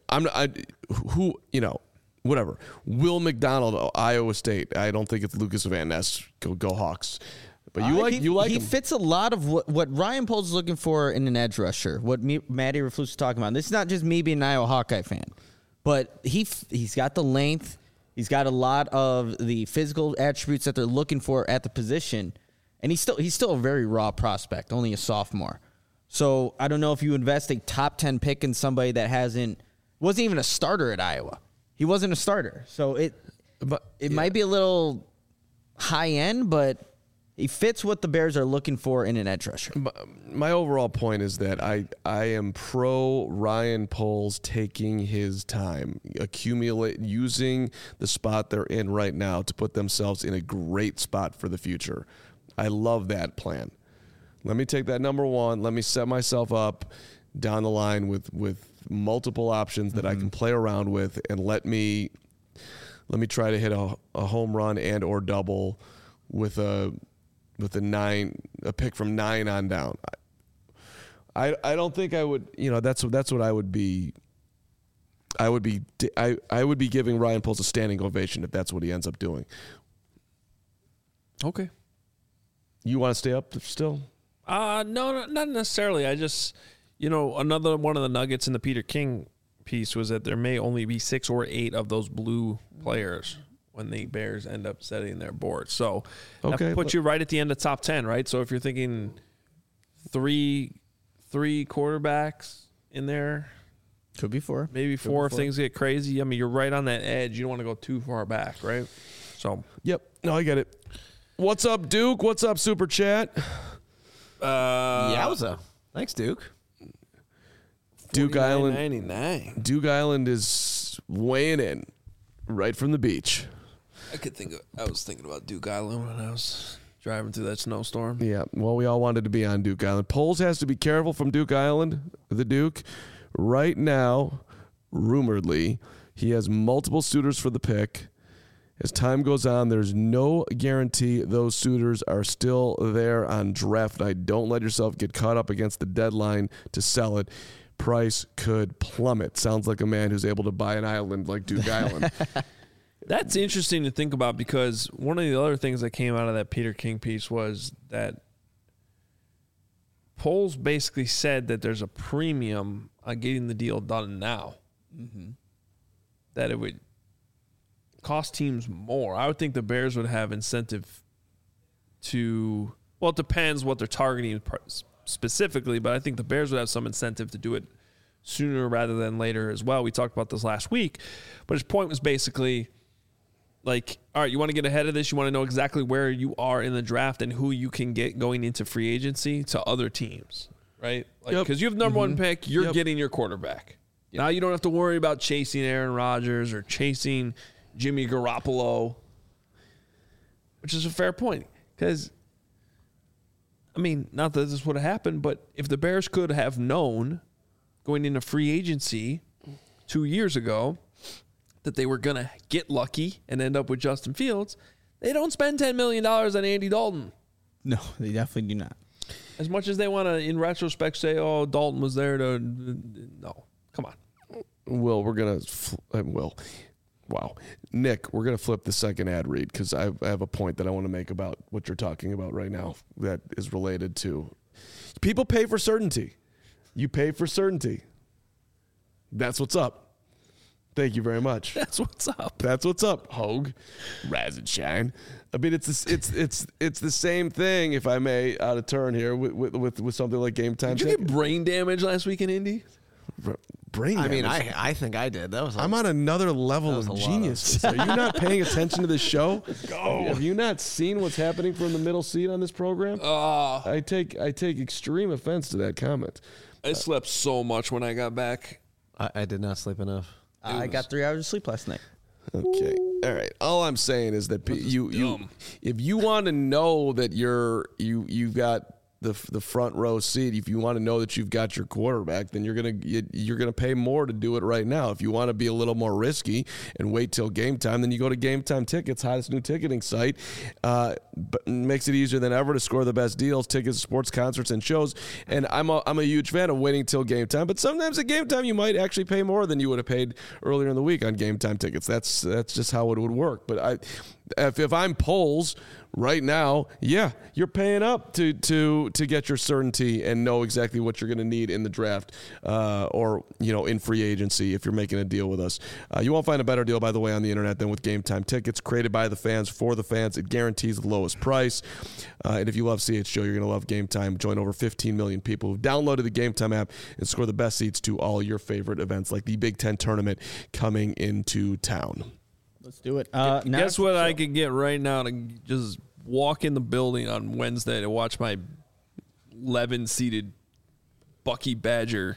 S2: whatever. Will McDonald, Iowa State. I don't think it's Lucas Van Ness. Go Hawks. But he
S3: him. Fits a lot of what Ryan Poles is looking for in an edge rusher. What Matty Raflus is talking about. This is not just me being an Iowa Hawkeye fan, but he's got the length. He's got a lot of the physical attributes that they're looking for at the position, and he's still a very raw prospect, only a sophomore. So I don't know if you invest a top 10 pick in somebody that wasn't even a starter at Iowa. He wasn't a starter, so it might be a little high end, but he fits what the Bears are looking for in an edge rusher.
S2: My overall point is that I am pro Ryan Poles taking his time, using the spot they're in right now to put themselves in a great spot for the future. I love that plan. Let me take that number one. Let me set myself up down the line with multiple options that I can play around with, and let me try to hit a home run and or double with a pick from 9 on down. I don't think I would, that's what I would be. I would be giving Ryan Poles a standing ovation if that's what he ends up doing.
S1: Okay.
S2: You want to stay up still?
S1: No, not necessarily. I just, Another one of the nuggets in the Peter King piece was that there may only be 6 or 8 of those blue players when the Bears end up setting their board. So that puts you right at the end of top 10, right? So if you're thinking three quarterbacks in there,
S3: Could be 4.
S1: maybe 4 if things get crazy. I mean, you're right on that edge. You don't want to go too far back, right? So
S2: Yep. No, I get it. What's up, Duke? What's up, Super Chat?
S4: Yowza. Thanks, Duke.
S2: Duke Island.
S1: 99.
S2: Duke Island is weighing in right from the beach.
S1: I was thinking about Duke Island when I was driving through that snowstorm.
S2: Yeah, well, we all wanted to be on Duke Island. Poles has to be careful from Duke Island, the Duke. Right now, rumoredly, he has multiple suitors for the pick. As time goes on, there's no guarantee those suitors are still there on draft night. Don't let yourself get caught up against the deadline to sell it. Price could plummet. Sounds like a man who's able to buy an island like Duke Island.
S1: That's interesting to think about because one of the other things that came out of that Peter King piece was that Poles basically said that there's a premium on getting the deal done now. Mm-hmm. That it would cost teams more. I would think the Bears would have incentive to, well, it depends what they're targeting specifically, but I think the Bears would have some incentive to do it sooner rather than later as well. We talked about this last week, but his point was basically like, all right, you want to get ahead of this. You want to know exactly where you are in the draft and who you can get going into free agency to other teams, right? Like, because you have number one pick, you're getting your quarterback. Now you don't have to worry about chasing Aaron Rodgers or chasing Jimmy Garoppolo, which is a fair point. Because, I mean, not that this would have happened, but if the Bears could have known going into free agency 2 years ago that they were going to get lucky and end up with Justin Fields, they don't spend $10 million on Andy Dalton.
S3: No, they definitely do not.
S1: As much as they want to, in retrospect, say, oh, Dalton was there to... No, come on.
S2: Will, we're going to... Wow. Nick, we're going to flip the second ad read because I have a point that I want to make about what you're talking about right now that is related to... People pay for certainty. You pay for certainty. That's what's up. Thank you very much.
S1: That's what's up.
S2: That's what's up, Hogue. Raz and shine. I mean, it's the same thing, if I may, out of turn here with something like Game Time.
S1: Did you get brain damage last week in Indy?
S2: Brain damage?
S4: I mean, I think I did. That was.
S2: I'm on another level of genius. Are you not paying attention to the show?
S1: Go.
S2: Have you not seen what's happening from the middle seat on this program? I take extreme offense to that comment.
S1: I slept so much when I got back.
S4: I did not sleep enough.
S3: I got 3 hours of sleep last night.
S2: Okay. All right. All I'm saying is that you if you want to know that you've got the front row seat, if you want to know that you've got your quarterback, then you're gonna pay more to do it right now. If you want to be a little more risky and wait till game time, then you go to Game Time Tickets, hottest new ticketing site. But makes it easier than ever to score the best deals, tickets, sports, concerts, and shows. And I'm a huge fan of waiting till game time. But sometimes at game time you might actually pay more than you would have paid earlier in the week on Game Time Tickets. That's just how it would work. But if I'm Poles right now, yeah, you're paying up to get your certainty and know exactly what you're going to need in the draft or in free agency if you're making a deal with us. You won't find a better deal, by the way, on the internet than with Game Time Tickets, created by the fans for the fans. It guarantees the lowest price. And if you love CHGO, you're going to love Game Time. Join over 15 million people who've downloaded the Game Time app and score the best seats to all your favorite events like the Big Ten tournament coming into town.
S3: Let's do it.
S1: Guess what I could get right now to just walk in the building on Wednesday to watch my 11-seated Bucky Badger.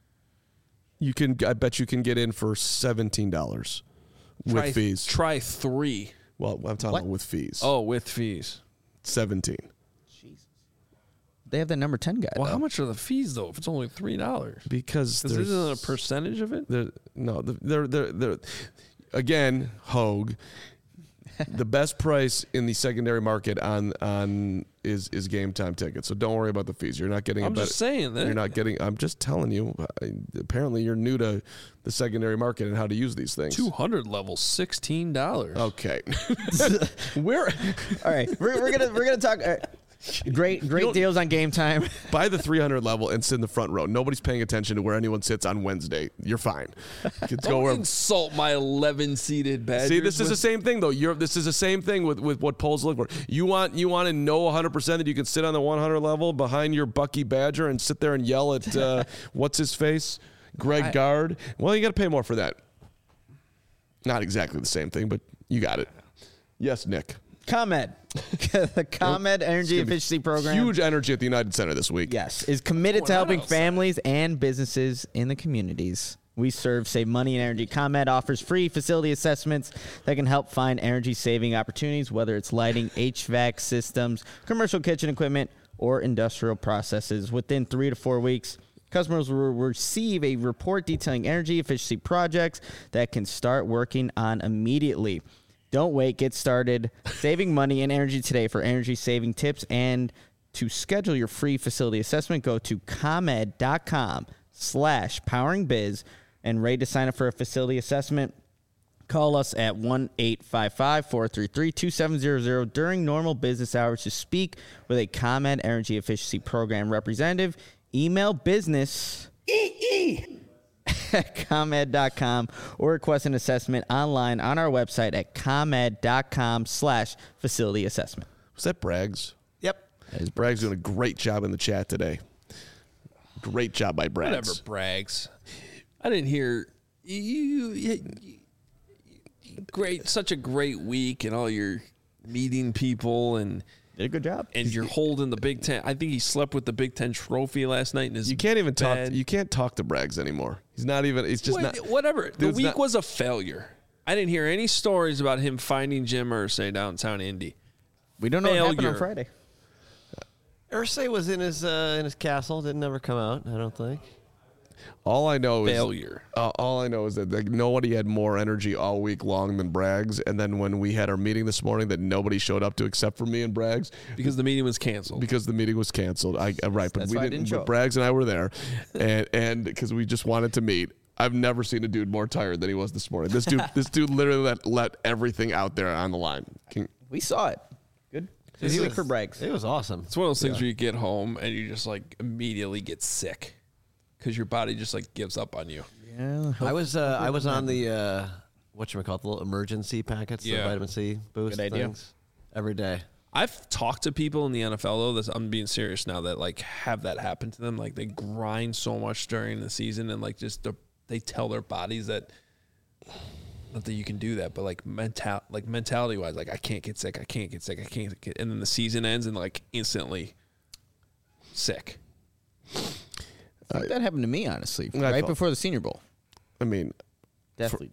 S2: I bet you can get in for $17 with fees.
S1: Try 3.
S2: Well, I'm talking about with fees.
S1: Oh, with fees.
S2: 17.
S3: Jesus. They have that number 10 guy.
S1: Well,
S3: though.
S1: how much are the fees though? If it's only $3,
S2: Because
S1: isn't a percentage of it?
S2: They're again, Hogue. The best price in the secondary market on is Game Time Tickets. So don't worry about the fees. You're not getting.
S1: I'm just saying that
S2: you're not getting. I'm just telling you. Apparently, you're new to the secondary market and how to use these things.
S1: 200 level, $16.
S2: Okay.
S3: All right, we're gonna talk. Great deals on Game Time.
S2: Buy the 300 level and sit in the front row. Nobody's paying attention to where anyone sits on Wednesday. You're fine.
S1: Don't insult my 11-seated Badgers.
S2: See, this is the same thing, though. This is the same thing with what polls look for. You want to know 100% that you can sit on the 100 level behind your Bucky Badger and sit there and yell at what's his face, Greg Gard. Well, you got to pay more for that. Not exactly the same thing, but you got it. Yes, Nick.
S3: ComEd. The ComEd Energy Efficiency Program.
S2: Huge energy at the United Center this week.
S3: Yes, is committed to helping families and businesses in the communities we serve save money and energy. ComEd offers free facility assessments that can help find energy-saving opportunities, whether it's lighting, HVAC systems, commercial kitchen equipment, or industrial processes. Within 3 to 4 weeks, customers will receive a report detailing energy efficiency projects that can start working on immediately. Don't wait. Get started saving money and energy today. For energy-saving tips and to schedule your free facility assessment, go to comed.com/poweringbiz and ready to sign up for a facility assessment. Call us at 1-855-433-2700 during normal business hours to speak with a ComEd Energy Efficiency Program representative. Email business at comed.com or request an assessment online on our website at comed.com/facility assessment.
S2: Was that Braggs?
S4: Yep.
S2: Braggs doing a great job in the chat today. Great job by Braggs.
S1: Whatever, Braggs. I didn't hear you. Great, such a great week, and all your meeting people and
S3: did a good job.
S1: And you're holding the Big Ten. I think he slept with the Big Ten trophy last night in his
S2: You can't even
S1: bed.
S2: talk. You can't talk to Braggs anymore. He's not even. He's just not.
S1: Whatever. The
S2: Dude's
S1: week
S2: not-
S1: was a failure. I didn't hear any stories about him finding Jim Irsay downtown Indy.
S3: We don't know what happened on
S1: Failure.
S3: Friday.
S4: Irsay was in his castle. Didn't ever come out, I don't think.
S2: All I know
S1: Failure.
S2: All I know is that nobody had more energy all week long than Braggs. And then when we had our meeting this morning, that nobody showed up to except for me and Braggs
S1: Because the meeting was canceled.
S2: because the meeting was canceled. Right, but
S3: That's
S2: we
S3: why I
S2: didn't.
S3: didn't show
S2: But
S3: up.
S2: Braggs and I were there, and because we just wanted to meet. I've never seen a dude more tired than he was this morning. This dude literally let everything out there on the line.
S3: We saw it. Good. This week for Braggs.
S4: It was awesome.
S1: It's one of those things where you get home and you just like immediately get sick because your body just like gives up on you.
S3: Yeah.
S4: I was on the whatchamacallit, the little emergency packets, the
S1: Yeah.
S4: vitamin C boost
S3: Good idea.
S4: things every day.
S1: I've talked to people in the NFL though. I'm being serious now that like have that happen to them. Like they grind so much during the season and like just they tell their bodies that not that you can do that, but like mentality wise, like I can't get sick, and then the season ends and like instantly sick.
S3: I think that happened to me, honestly,
S2: I
S3: right
S2: felt-
S3: before the Senior Bowl.
S2: I mean,
S3: Definitely.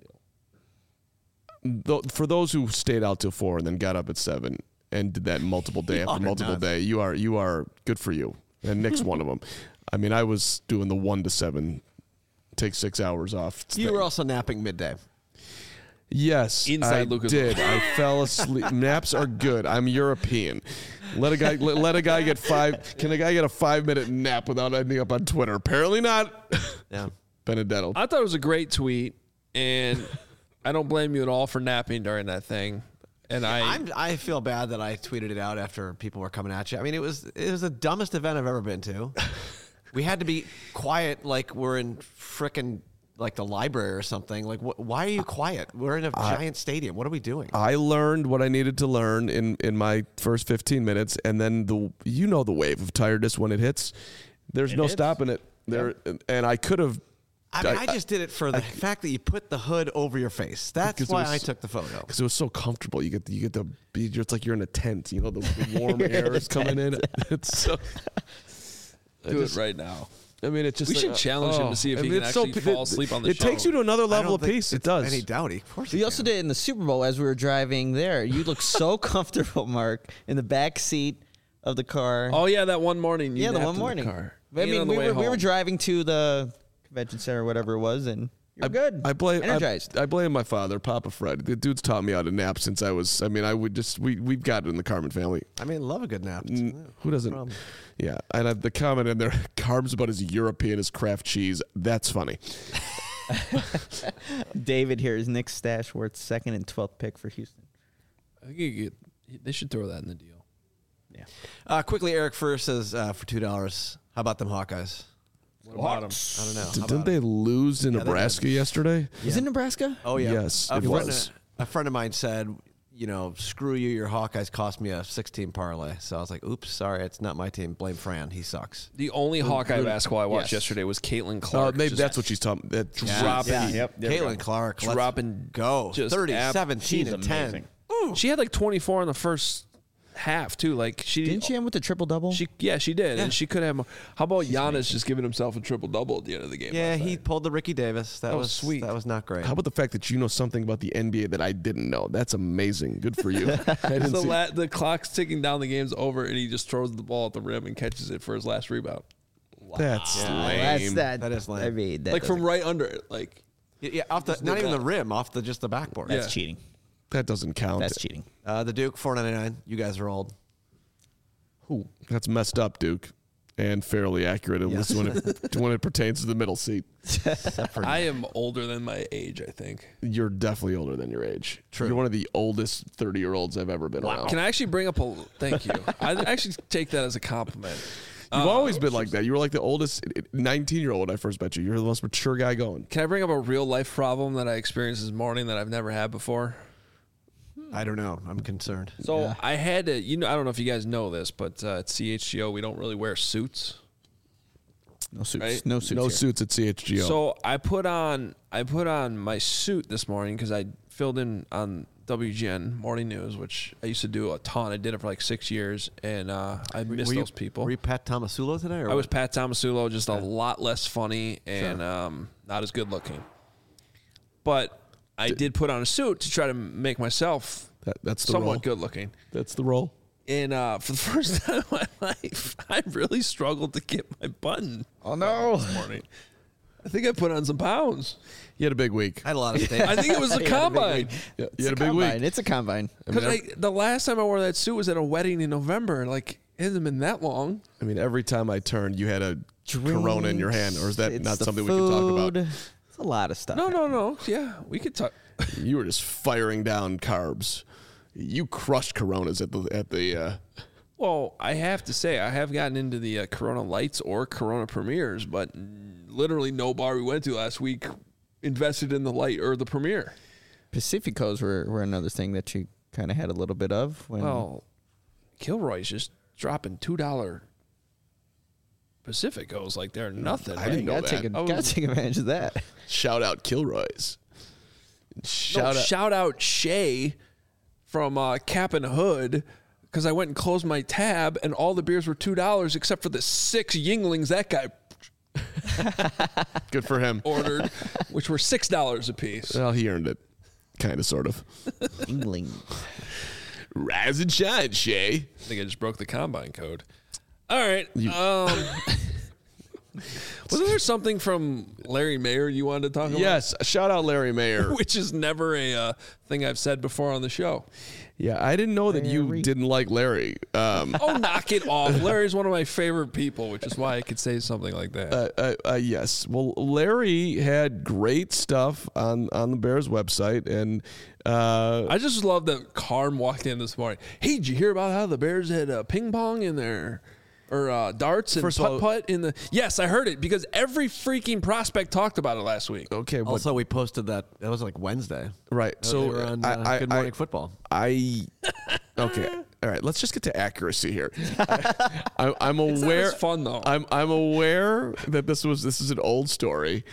S2: for those who stayed out till 4 and then got up at 7 and did that multiple day after
S4: You're
S2: multiple
S4: nuts.
S2: day, you are good for you. And Nick's one of them. I mean, I was doing the 1 to 7, take 6 hours off.
S4: You were also napping midday.
S2: Yes,
S1: Inside
S2: I
S1: Lucas
S2: did.
S1: Oil.
S2: I fell asleep. Naps are good. I'm European. Let a guy get 5. Can a guy get a 5-minute nap without ending up on Twitter? Apparently not.
S4: Yeah.
S2: Benedetto.
S1: I thought it was a great tweet, and I don't blame you at all for napping during that thing. And
S4: I feel bad that I tweeted it out after people were coming at you. I mean, it was the dumbest event I've ever been to. We had to be quiet like we're in frickin' like the library or something. Like, why are you quiet? We're in a giant stadium. What are we doing?
S2: I learned what I needed to learn in my first 15 minutes, and then the wave of tiredness when it hits. There's no stopping it. And I could have.
S4: I just did it for the fact that you put the hood over your face. That's
S2: Because it
S4: why
S2: was-
S4: I took the photo.
S2: Because it was so comfortable. You get the it's like you're in a tent. You know, the warm air is coming in. It's so.
S1: do it right now.
S2: I mean, it's just
S1: We should challenge him to see if he can actually fall asleep on the
S2: It takes
S1: show.
S2: you to another
S4: I
S2: level
S4: don't
S2: of
S4: think
S2: peace. It
S4: it's
S2: does.
S4: Any doubt? Of course.
S3: We
S4: you
S3: also
S4: can.
S3: did it in the Super Bowl as we were driving there. You looked so comfortable, Mark, in the back seat of the car.
S1: Oh yeah, that one morning. You
S3: yeah, the
S1: napped
S3: one
S1: in
S3: morning.
S1: car.
S3: I
S1: And
S3: mean,
S1: on the
S3: we
S1: way
S3: were
S1: home.
S3: driving to the convention center, or whatever it was, and you're good.
S2: I blame
S3: energized.
S2: I blame my father, Papa Fred. The dude's taught me how to nap since I was. I mean, I would just we've got it in the Carmen family.
S4: I mean, love a good nap.
S2: Who doesn't?
S4: problem.
S2: Yeah, and the comment in there, carbs about as European as Kraft cheese. That's funny.
S3: David here is Nick Stashworth's second and 12th pick for Houston.
S1: I think they should throw that in the deal.
S4: Quickly, Eric Furr says for $2. How about them Hawkeyes?
S1: What about him?
S4: I don't know. How
S2: Didn't
S4: about
S2: they
S4: them?
S2: lose to
S4: they
S2: Nebraska
S4: did.
S2: yesterday?
S3: Is it Nebraska?
S4: Oh yeah.
S2: Yes, it was.
S4: A friend of mine said, screw you. Your Hawkeyes cost me a 6-team parlay. So I was like, oops, sorry, it's not my team. Blame Fran. He sucks.
S1: The only Hawkeye basketball I watched yesterday was Caitlin Clark.
S2: Maybe
S1: just
S2: that's what she's talking. That
S1: dropping.
S4: Caitlin Clark, let's
S1: Dropping
S4: go.
S1: just
S4: 30,
S1: ab-
S4: 17,
S3: She's
S4: and 10.
S3: amazing.
S1: She had like 24 in the first half too. Like
S3: Didn't she end with the triple double?
S1: She did, and she could have. How about Giannis just giving himself a triple double at the end of the game?
S4: Yeah,
S1: last
S4: he
S1: night?
S4: pulled the Ricky Davis. That was
S1: sweet.
S4: That was not great.
S2: How about the fact that you know something about the NBA that I didn't know? That's amazing. Good for you. I didn't see-
S1: The clock's ticking down. The game's over, and he just throws the ball at the rim and catches it for his last rebound.
S2: That's lame.
S3: That's that.
S4: That is lame.
S3: I mean, that
S1: Like from right under it. Like
S4: Yeah, off the not even the rim, off just the backboard.
S1: Yeah.
S3: That's cheating.
S2: That doesn't count.
S3: That's cheating.
S4: The Duke $4.99. You guys are old.
S3: Who?
S2: That's messed up, Duke, and fairly accurate, at least when it pertains to the middle seat.
S1: I am older than my age. I think.
S2: You're definitely older than your age.
S4: True.
S2: You're one of the oldest 30-year-olds I've ever been around.
S1: Can I actually bring up a? Thank you. I actually take that as a compliment.
S2: You've always been like that. You were like the oldest 19-year-old when I first met you. You're the most mature guy going.
S1: Can I bring up a real life problem that I experienced this morning that I've never had before?
S4: I don't know. I'm concerned.
S1: So I had to, I don't know if you guys know this, but at CHGO we don't really wear suits.
S3: No suits.
S1: Right?
S3: No suits.
S2: No
S3: here.
S2: suits at CHGO.
S1: So I put on my suit this morning because I filled in on WGN Morning News, which I used to do a ton. I did it for like 6 years, and I miss those people.
S4: Were you Pat Tomasulo today? Or
S1: I was Pat Tomasulo, just a lot less funny and not as good looking. But I did put on a suit to try to make myself
S2: that's the role.
S1: somewhat good looking.
S2: That's the role.
S1: And for the first time in my life, I really struggled to get my button.
S3: Oh no!
S1: This morning, I think I put on some pounds.
S2: You had a big week.
S4: I had a lot of stage.
S1: I think it was a combine.
S2: Yeah,
S3: It's
S2: you had
S3: a
S2: a big
S3: combine.
S2: week.
S3: It's a combine.
S1: Because the last time I wore that suit was at a wedding in November. Like it hasn't been that long.
S2: I mean, every time I turned, you had a Corona in your hand, or is that
S3: It's
S2: not
S3: the
S2: something we can talk about?
S3: food. It's a lot of stuff.
S1: No. Yeah, we could talk.
S2: You were just firing down carbs. You crushed Coronas at the.
S1: Well, I have to say, I have gotten into the Corona Lights or Corona Premiers, but literally no bar we went to last week invested in the light or the Premier.
S3: Pacificos were another thing that you kind of had a little bit of. When
S1: Well, Kilroy's just dropping $2 Pacificos like they're nothing.
S2: I didn't know
S3: gotta
S2: that.
S3: gotta take advantage of that.
S2: Shout out Kilroy's.
S1: Shout out Shay from Cap and Hood, because I went and closed my tab and all the beers were $2 except for the 6 Yinglings that guy
S2: Good for him.
S1: ordered, which were $6 a piece.
S2: Well, he earned it. Kind of, sort of.
S3: Yingling.
S2: Rise and shine, Shay.
S1: I think I just broke the combine code. All right. Wasn't there something from Larry Mayer you wanted to talk about?
S2: Yes, shout out Larry Mayer.
S1: Which is never a thing I've said before on the show.
S2: Yeah, I didn't know that you
S3: Larry.
S2: didn't like Larry.
S1: Oh, knock it off. Larry's one of my favorite people, which is why I could say something like that.
S2: Yes. Well, Larry had great stuff on the Bears website, and
S1: I just love that Carm walked in this morning. Hey, did you hear about how the Bears had ping pong in their or darts and
S2: First of all-
S1: putt-putt in the... Yes, I heard it because every freaking prospect talked about it last week.
S2: okay, but
S4: Also, we posted that. That was like Wednesday.
S2: right.
S4: They
S2: So
S4: were on Good Morning Football.
S2: okay. All right. Let's just get to accuracy here. I'm aware.
S1: as fun, though.
S2: I'm aware that this is an old story,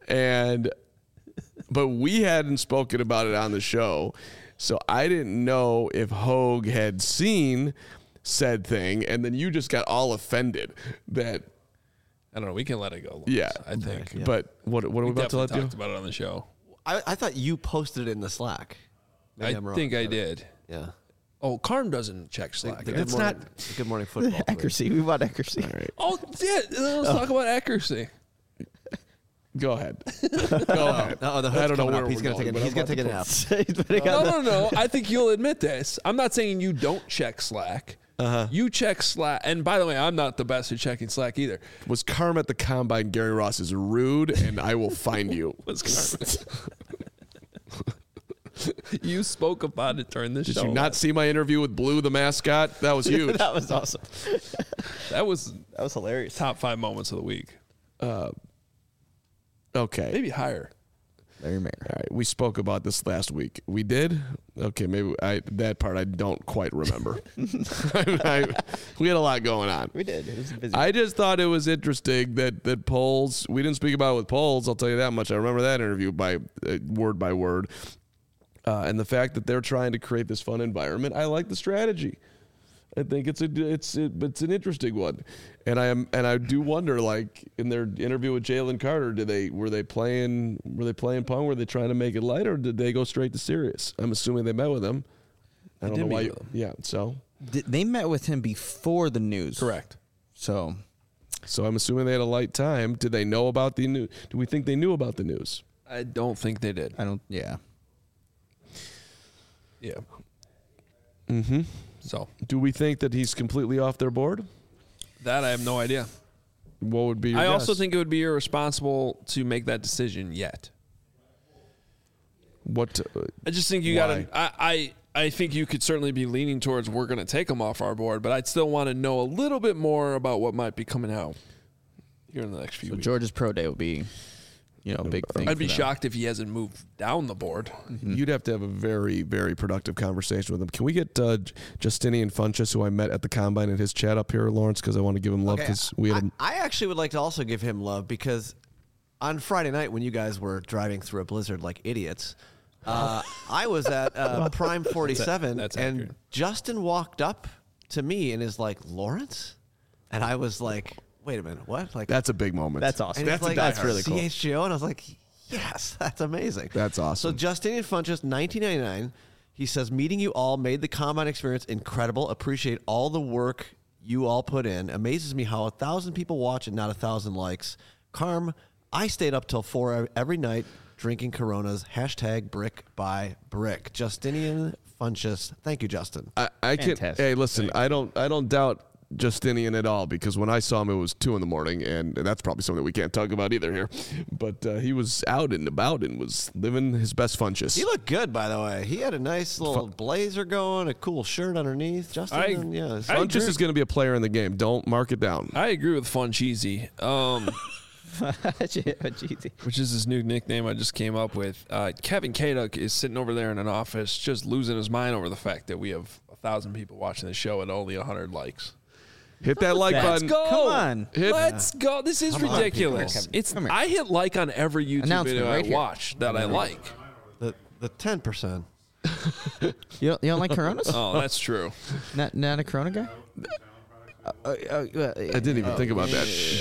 S2: but we hadn't spoken about it on the show, so I didn't know if Hogue had seen said thing, and then you just got all offended that.
S1: I don't know. We can let it go.
S2: Yeah,
S1: I think.
S4: yeah.
S2: But what are we about to let
S1: definitely
S2: you?
S1: talked about it on the show.
S4: I thought you posted it in the Slack. Maybe
S1: I
S4: I'm wrong.
S1: think I did.
S4: Yeah.
S1: Oh, Carm doesn't check
S4: The
S1: Slack.
S4: Good
S2: That's
S4: Morning-
S2: not-
S4: the Good Morning Football.
S3: Accuracy. We want accuracy.
S2: All right.
S1: Oh, yeah. Let's talk about accuracy.
S2: Go ahead. Go ahead.
S4: Oh, the
S2: I
S4: hood's
S2: don't know
S4: coming
S2: where
S4: up. He's
S2: we're
S4: going to
S2: going,
S4: take
S2: but
S4: a
S2: I'm
S4: nap.
S1: No. I think you'll admit this. I'm not saying you don't check Slack. You check Slack. And by the way, I'm not the best at checking Slack either.
S2: Was Carm at the combine? Gary Ross is rude, and I will find you.
S1: Was Carm. You spoke about it during this
S2: Did
S1: show.
S2: you not see my interview with Blue, the mascot? That was huge.
S3: That was awesome.
S1: That was
S3: That was hilarious.
S1: top 5 moments of the week.
S2: Okay.
S1: Maybe higher.
S3: Larry Mayer.
S2: All right, we spoke about this last week. We did? Okay, maybe that part I don't quite remember. We had a lot going on.
S3: We did. It was busy.
S2: I just thought it was interesting that polls, we didn't speak about it with polls, I'll tell you that much. I remember that interview by word. And the fact that they're trying to create this fun environment, I like the strategy. I think it's an interesting one, and I do wonder, like in their interview with Jalen Carter, were they playing pong? Were they trying to make it light, or did they go straight to serious? I'm assuming they met with him. I don't know why. Yeah, so
S3: They met with him before the news.
S1: Correct.
S3: So
S2: I'm assuming they had a light time. Did they know about the news? Do we think they knew about the news?
S1: I don't think they did.
S3: I don't. Yeah.
S1: Yeah.
S2: Mm-hmm.
S1: So
S2: Do we think that he's completely off their board?
S1: that I have no idea.
S2: What would be your
S1: I also
S2: guess?
S1: think it would be irresponsible to make that decision yet.
S2: What?
S1: I just think you
S2: Why?
S1: got to. I think you could certainly be leaning towards we're going to take him off our board, but I'd still want to know a little bit more about what might be coming out here in the next few
S3: So
S1: weeks.
S3: George's pro day will be, a big thing.
S1: I'd be
S3: for them.
S1: shocked if he hasn't moved down the board.
S2: You'd have to have a very, very productive conversation with him. Can we get Justinian Funchess, who I met at the Combine, and his chat up here, Lawrence? Because I want to give him love because we had
S4: I actually would like to also give him love because on Friday night when you guys were driving through a blizzard like idiots, I was at Prime 47,
S1: that's
S4: and
S1: accurate.
S4: Justin walked up to me and is like, Lawrence? And I was like, wait a minute, what? Like,
S2: That's a big moment.
S3: That's awesome.
S4: and he's like,
S3: That's really cool.
S4: CHGO? And I was like, yes, that's amazing.
S2: That's awesome.
S4: So Justinian Funchess, 1999, he says, meeting you all made the Combine experience incredible. Appreciate all the work you all put in. Amazes me how 1,000 people watch and not 1,000 likes. Carm, I stayed up till 4 every night drinking Coronas. # brick by brick. Justinian Funchess. Thank you, Justin.
S2: I can.
S3: Fantastic.
S2: Hey, listen, I don't doubt Justinian at all because when I saw him, it was 2 a.m, and that's probably something that we can't talk about either here. But he was out and about and was living his best Funchess.
S4: He looked good, by the way. He had a nice little blazer going, a cool shirt underneath. Justin, yeah.
S2: Funchess is going to be a player in the game. Don't mark it down.
S1: I agree with Fun Cheesy,
S3: Jeezy.
S1: which is his new nickname I just came up with. Kevin Kaduk is sitting over there in an office just losing his mind over the fact that we have 1,000 people watching the show and only 100 likes.
S2: Hit that like
S3: Let's
S2: button.
S3: go. Come on.
S1: Let's go. This is
S4: Come on,
S1: ridiculous.
S3: people.
S1: It's
S3: Come here.
S1: I hit like on every YouTube
S3: Announcement
S1: video
S3: right
S1: I
S3: here.
S1: watch that I like.
S4: The 10%.
S3: You don't like Coronas?
S1: Oh, that's true.
S3: Not a Corona guy?
S2: I didn't even think about that.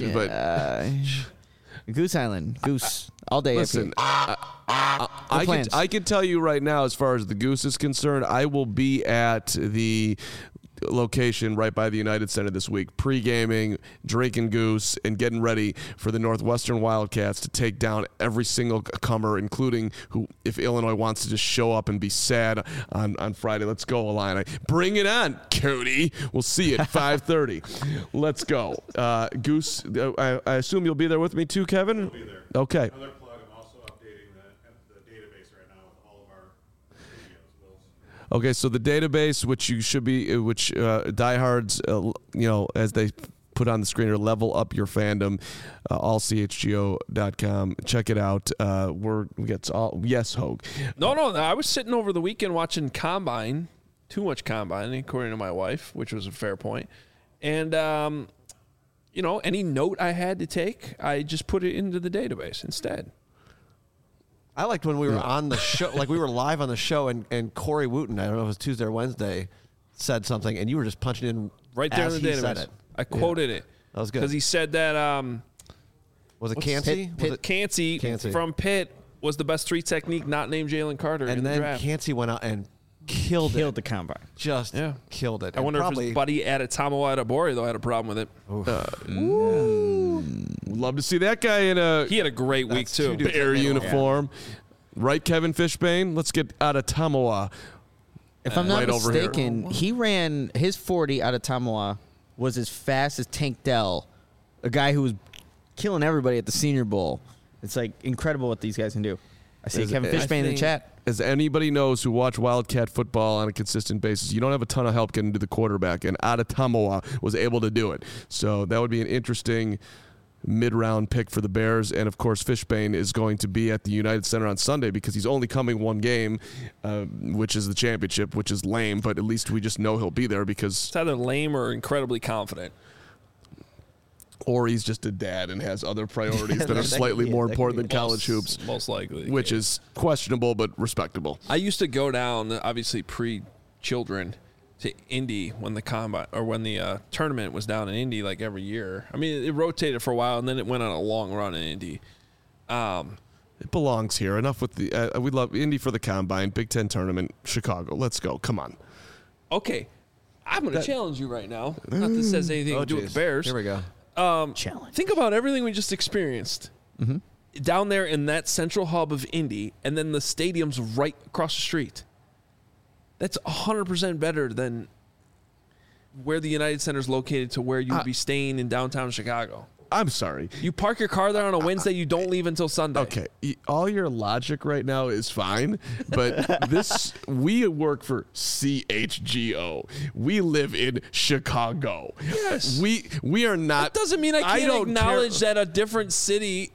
S2: But
S3: Goose Island. Goose. All day.
S2: listen, I
S3: plans?
S2: can tell you right now, as far as the Goose is concerned, I will be at the location right by the United Center this week, pre-gaming, drinking Goose, and getting ready for the Northwestern Wildcats to take down every single comer, including who, if Illinois wants to just show up and be sad on Friday. Let's go, Illini. Bring it on, Cody. We'll see you at 5:30. Let's go. Goose, I assume you'll be there with me too, Kevin?
S5: I'll be there.
S2: Okay.
S5: Another plug, I'm also updating the database right now with all of our videos.
S2: Okay, so the database, which you should be, diehards, as they put on the screen, or level up your fandom, allchgo.com. Check it out. We got all, yes, Hogue.
S1: No, I was sitting over the weekend watching Combine, too much Combine, according to my wife, which was a fair point. And, any note I had to take, I just put it into the database instead.
S4: I liked when we were on the show, like we were live on the show, and Corey Wooten, I don't know if it was Tuesday or Wednesday, said something, and you were just punching in
S1: Right there
S4: as
S1: in the
S4: he said
S1: database.
S4: it.
S1: I quoted it.
S4: That was good.
S1: Because he said that
S4: Was it Cansey? Was it-
S1: Cansey
S4: Cansey.
S1: from Pitt was the best 3 technique not named Jalen Carter in
S4: and
S1: the
S4: then
S1: draft.
S4: Cansey went out and killed
S3: Killed
S4: it.
S3: the Combine.
S4: Just
S1: Yeah.
S4: killed it.
S1: I wonder
S4: and
S1: if his buddy at Atamawa Adebori, though, had a problem with it.
S2: Would love to see that guy in a
S1: He had a great week,
S4: That's two
S1: too.
S4: dudes.
S2: Bear uniform. Right, Kevin Fishbane? Let's get out of Tamawa.
S3: If I'm not
S2: right over here.
S3: mistaken, he ran his 40 out of Tamawa was as fast as Tank Dell, a guy who was killing everybody at the Senior Bowl. It's like incredible what these guys can do. I see Kevin Fishbane in the chat.
S2: As anybody knows who watch Wildcat football on a consistent basis, you don't have a ton of help getting to the quarterback, and Adetomawa was able to do it. So that would be an interesting mid-round pick for the Bears. And, of course, Fishbane is going to be at the United Center on Sunday because he's only coming one game, which is the championship, which is lame, but at least we just know he'll be there because...
S1: It's either lame or incredibly confident.
S2: Or he's just a dad and has other priorities that are slightly more important than college hoops.
S1: Most likely.
S2: Which is questionable but respectable.
S1: I used to go down, obviously pre-children, to Indy when the combine or when the tournament was down in Indy like every year. I mean, it rotated for a while and then it went on a long run in Indy.
S2: It belongs here. Enough with the we love Indy for the combine, Big Ten tournament, Chicago. Let's go. Come on.
S1: Okay, I'm going to challenge you right now. Not that this has anything to do with the Bears.
S4: Here we go.
S3: Challenge.
S1: Think about everything we just experienced down there in that central hub of Indy, and then the stadium's right across the street. That's 100% better than where the United Center is located to where you would be staying in downtown Chicago.
S2: I'm sorry.
S1: You park your car there on a Wednesday, you don't leave until Sunday.
S2: Okay, all your logic right now is fine, but we work for CHGO. We live in Chicago.
S1: Yes.
S2: We are not.
S1: That doesn't mean I can't
S2: don't
S1: acknowledge
S2: care.
S1: that a different city.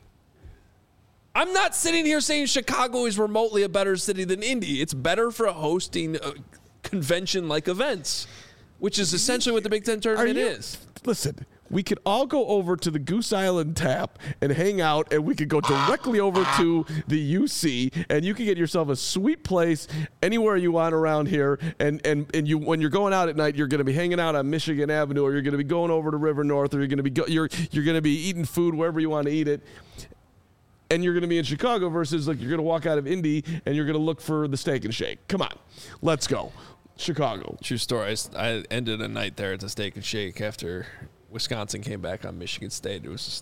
S1: I'm not sitting here saying Chicago is remotely a better city than Indy. It's better for hosting convention-like events, which is essentially what the Big Ten tournament is.
S2: Listen, we could all go over to the Goose Island Tap and hang out, and we could go directly over to the UC, and you can get yourself a sweet place anywhere you want around here. And you, when you're going out at night, you're going to be hanging out on Michigan Avenue, or you're going to be going over to River North, or you're going to be eating food wherever you want to eat it. And you're going to be in Chicago versus like you're going to walk out of Indy and you're going to look for the Steak and Shake. Come on, let's go, Chicago.
S1: True story. I ended a night there at the Steak and Shake after Wisconsin came back on Michigan State. It was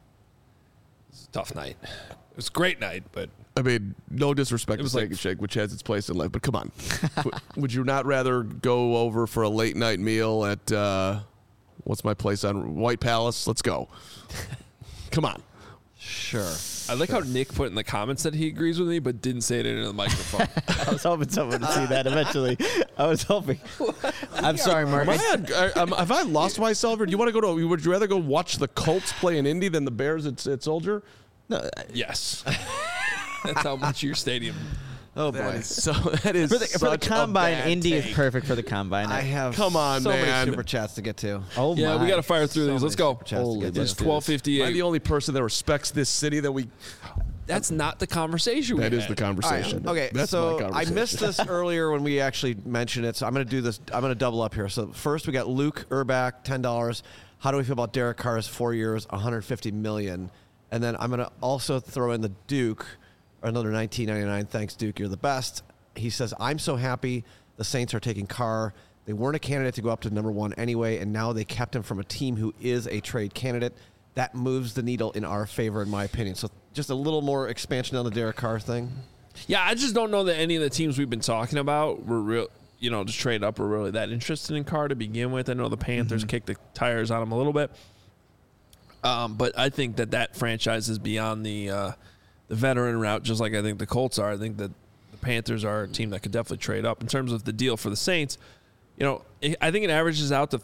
S1: a tough night. It was a great night, but
S2: I mean, no disrespect to
S1: was
S2: Steak
S1: like-
S2: and Shake, which has its place in life, but come on. Would you not rather go over for a late night meal at what's my place on White Palace? Let's go. Come on.
S4: Sure.
S1: I like how Nick put in the comments that he agrees with me, but didn't say it into the microphone.
S3: I was hoping someone would see that eventually. I was hoping. I'm sorry, Mark.
S2: Have I lost myself, or do you want to go to? Would you rather go watch the Colts play in Indy than the Bears at Soldier?
S3: No,
S1: Yes. That's how much your stadium.
S4: Oh boy.
S2: That is
S3: for the
S2: such a
S3: combine,
S2: bad
S3: Indy
S2: take.
S3: is perfect for the combine.
S4: I have
S2: Come on,
S4: so
S2: man.
S4: many super chats to get to.
S3: Oh
S1: Yeah,
S3: my.
S1: we got to fire through
S4: So
S1: these. Let's
S4: many
S1: go.
S4: super chats to
S3: Holy
S4: get to.
S1: It's
S2: Am I
S1: 12:58.
S2: the only person that respects this city that we?
S1: That's not the conversation we
S2: That is
S1: had.
S2: the conversation.
S4: Okay,
S2: That's
S4: so
S2: my
S4: I
S2: conversation.
S4: missed this earlier when we actually mentioned it, so I'm going to do this. I'm going to double up here. So first we got Luke Urbach, $10. How do we feel about Derek Carr's 4 years, $150 million? And then I'm going to also throw in the Duke, another $19.99. Thanks, Duke. You're the best. He says, I'm so happy the Saints are taking Carr. They weren't a candidate to go up to number one anyway, and now they kept him from a team who is a trade candidate. That moves the needle in our favor, in my opinion. So just a little more expansion on the Derek Carr thing.
S1: Yeah, I just don't know that any of the teams we've been talking about were real, to trade up were really that interested in Carr to begin with. I know the Panthers kicked the tires on him a little bit. But I think that franchise is beyond the veteran route, just like I think the Colts are. I think that the Panthers are a team that could definitely trade up. In terms of the deal for the Saints, I think it averages out to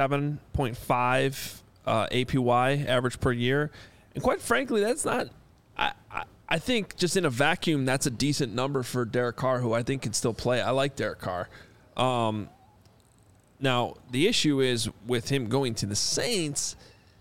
S1: 37.5 APY average per year. And quite frankly, that's not I think just in a vacuum, that's a decent number for Derek Carr, who I think can still play. I like Derek Carr. Now, the issue is with him going to the Saints,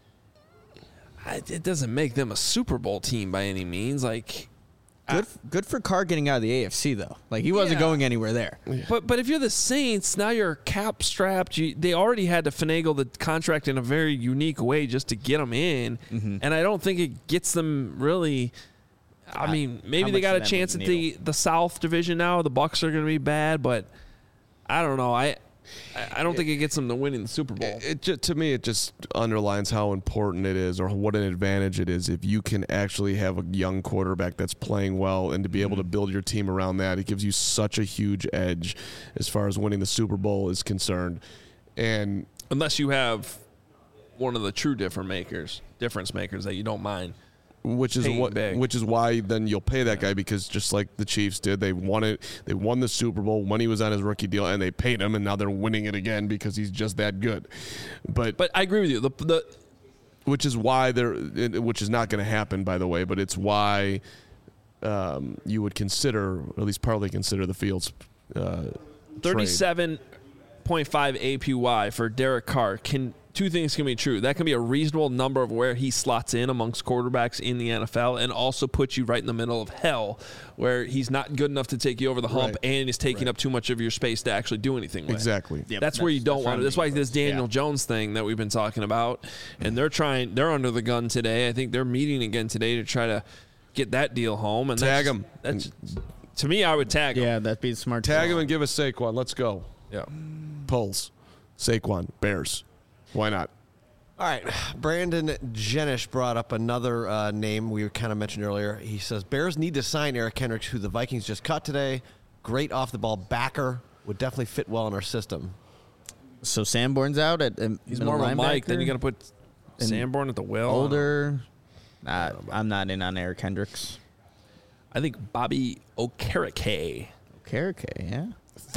S1: it doesn't make them a Super Bowl team by any means. Like,
S3: Good for Carr getting out of the AFC, though. Like, he wasn't
S1: Yeah.
S3: going anywhere there.
S1: But if you're the Saints, now you're cap strapped. They already had to finagle the contract in a very unique way just to get them in, and I don't think it gets them really. I mean, maybe
S3: how
S1: they
S3: much
S1: got a
S3: does that
S1: chance
S3: move
S1: at
S3: the
S1: the South Division now. The Bucs are going to be bad, but I don't know. I don't think it gets them to winning the Super Bowl.
S2: To me, it just underlines how important it is, or what an advantage it is, if you can actually have a young quarterback that's playing well, and to be able to build your team around that. It gives you such a huge edge as far as winning the Super Bowl is concerned. And
S1: Unless you have one of the true difference makers that you don't mind.
S2: Which is
S1: Paying big.
S2: which is why then you'll pay that guy, because just like the Chiefs did, they won it. They won the Super Bowl when he was on his rookie deal, and they paid him, and now they're winning it again because he's just that good. But
S1: I agree with you. The
S2: which is why which is not going to happen, by the way. But it's why you would consider, or at least partly consider, the Fields.
S1: 37.5 APY for Derek Carr. Two things can be true. That can be a reasonable number of where he slots in amongst quarterbacks in the NFL, and also puts you right in the middle of hell, where he's not good enough to take you over the hump and is taking up too much of your space to actually do anything with.
S2: Exactly.
S3: Yep,
S1: That's where you don't want it. That's why this Daniel
S3: Yeah.
S1: Jones thing that we've been talking about, and they're under the gun today. I think they're meeting again today to try to get that deal home. And
S2: Tag him.
S1: That's, to me, I would tag him.
S3: Yeah, that'd be smart.
S2: Tag him and give us Saquon. Let's go.
S1: Yeah.
S2: Pulls. Saquon. Bears. Why not?
S4: All right, Brandon Jenish brought up another name we kind of mentioned earlier. He says Bears need to sign Eric Kendricks, who the Vikings just cut today. Great off-the-ball backer. Would definitely fit well in our system.
S3: So Sanborn's out at
S1: He's more of a Mike. Then you got to put
S3: And
S1: Sanborn at the wheel.
S3: older. I'm not in on Eric Hendricks.
S1: I think Bobby Okereke.
S3: Okereke, yeah.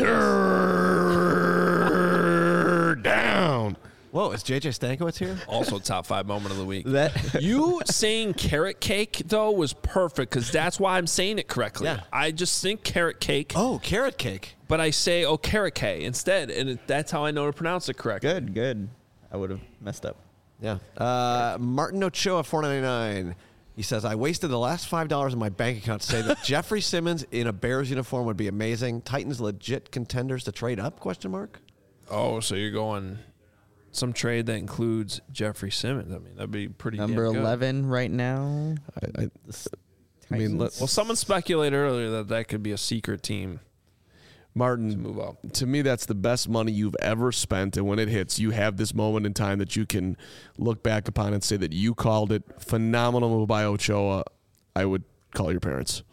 S2: Third down.
S4: Whoa, is JJ Stankiewicz here?
S1: Also top 5 moment of the week.
S3: That
S1: You saying carrot cake, though, was perfect, because that's why I'm saying it correctly.
S4: Yeah.
S1: I just think carrot cake,
S4: Oh, carrot cake.
S1: but I say Okereke instead, and that's how I know to pronounce it correctly.
S3: good. I would have messed up.
S4: Yeah. Martin Ochoa, $4.99. He says, I wasted the last $5 in my bank account to say that Jeffrey Simmons in a Bears uniform would be amazing. Titans legit contenders to trade up, question mark?
S1: Oh, so you're going some trade that includes Jeffrey Simmons. I mean, that'd be pretty
S3: Number
S1: damn good.
S3: 11 right now.
S2: I mean,
S1: Well, someone speculated earlier that could be a secret team to
S2: Martin,
S1: move up.
S2: to me, that's the best money you've ever spent. And when it hits, you have this moment in time that you can look back upon and say that you called it. Phenomenal move by Ochoa. I would call your parents.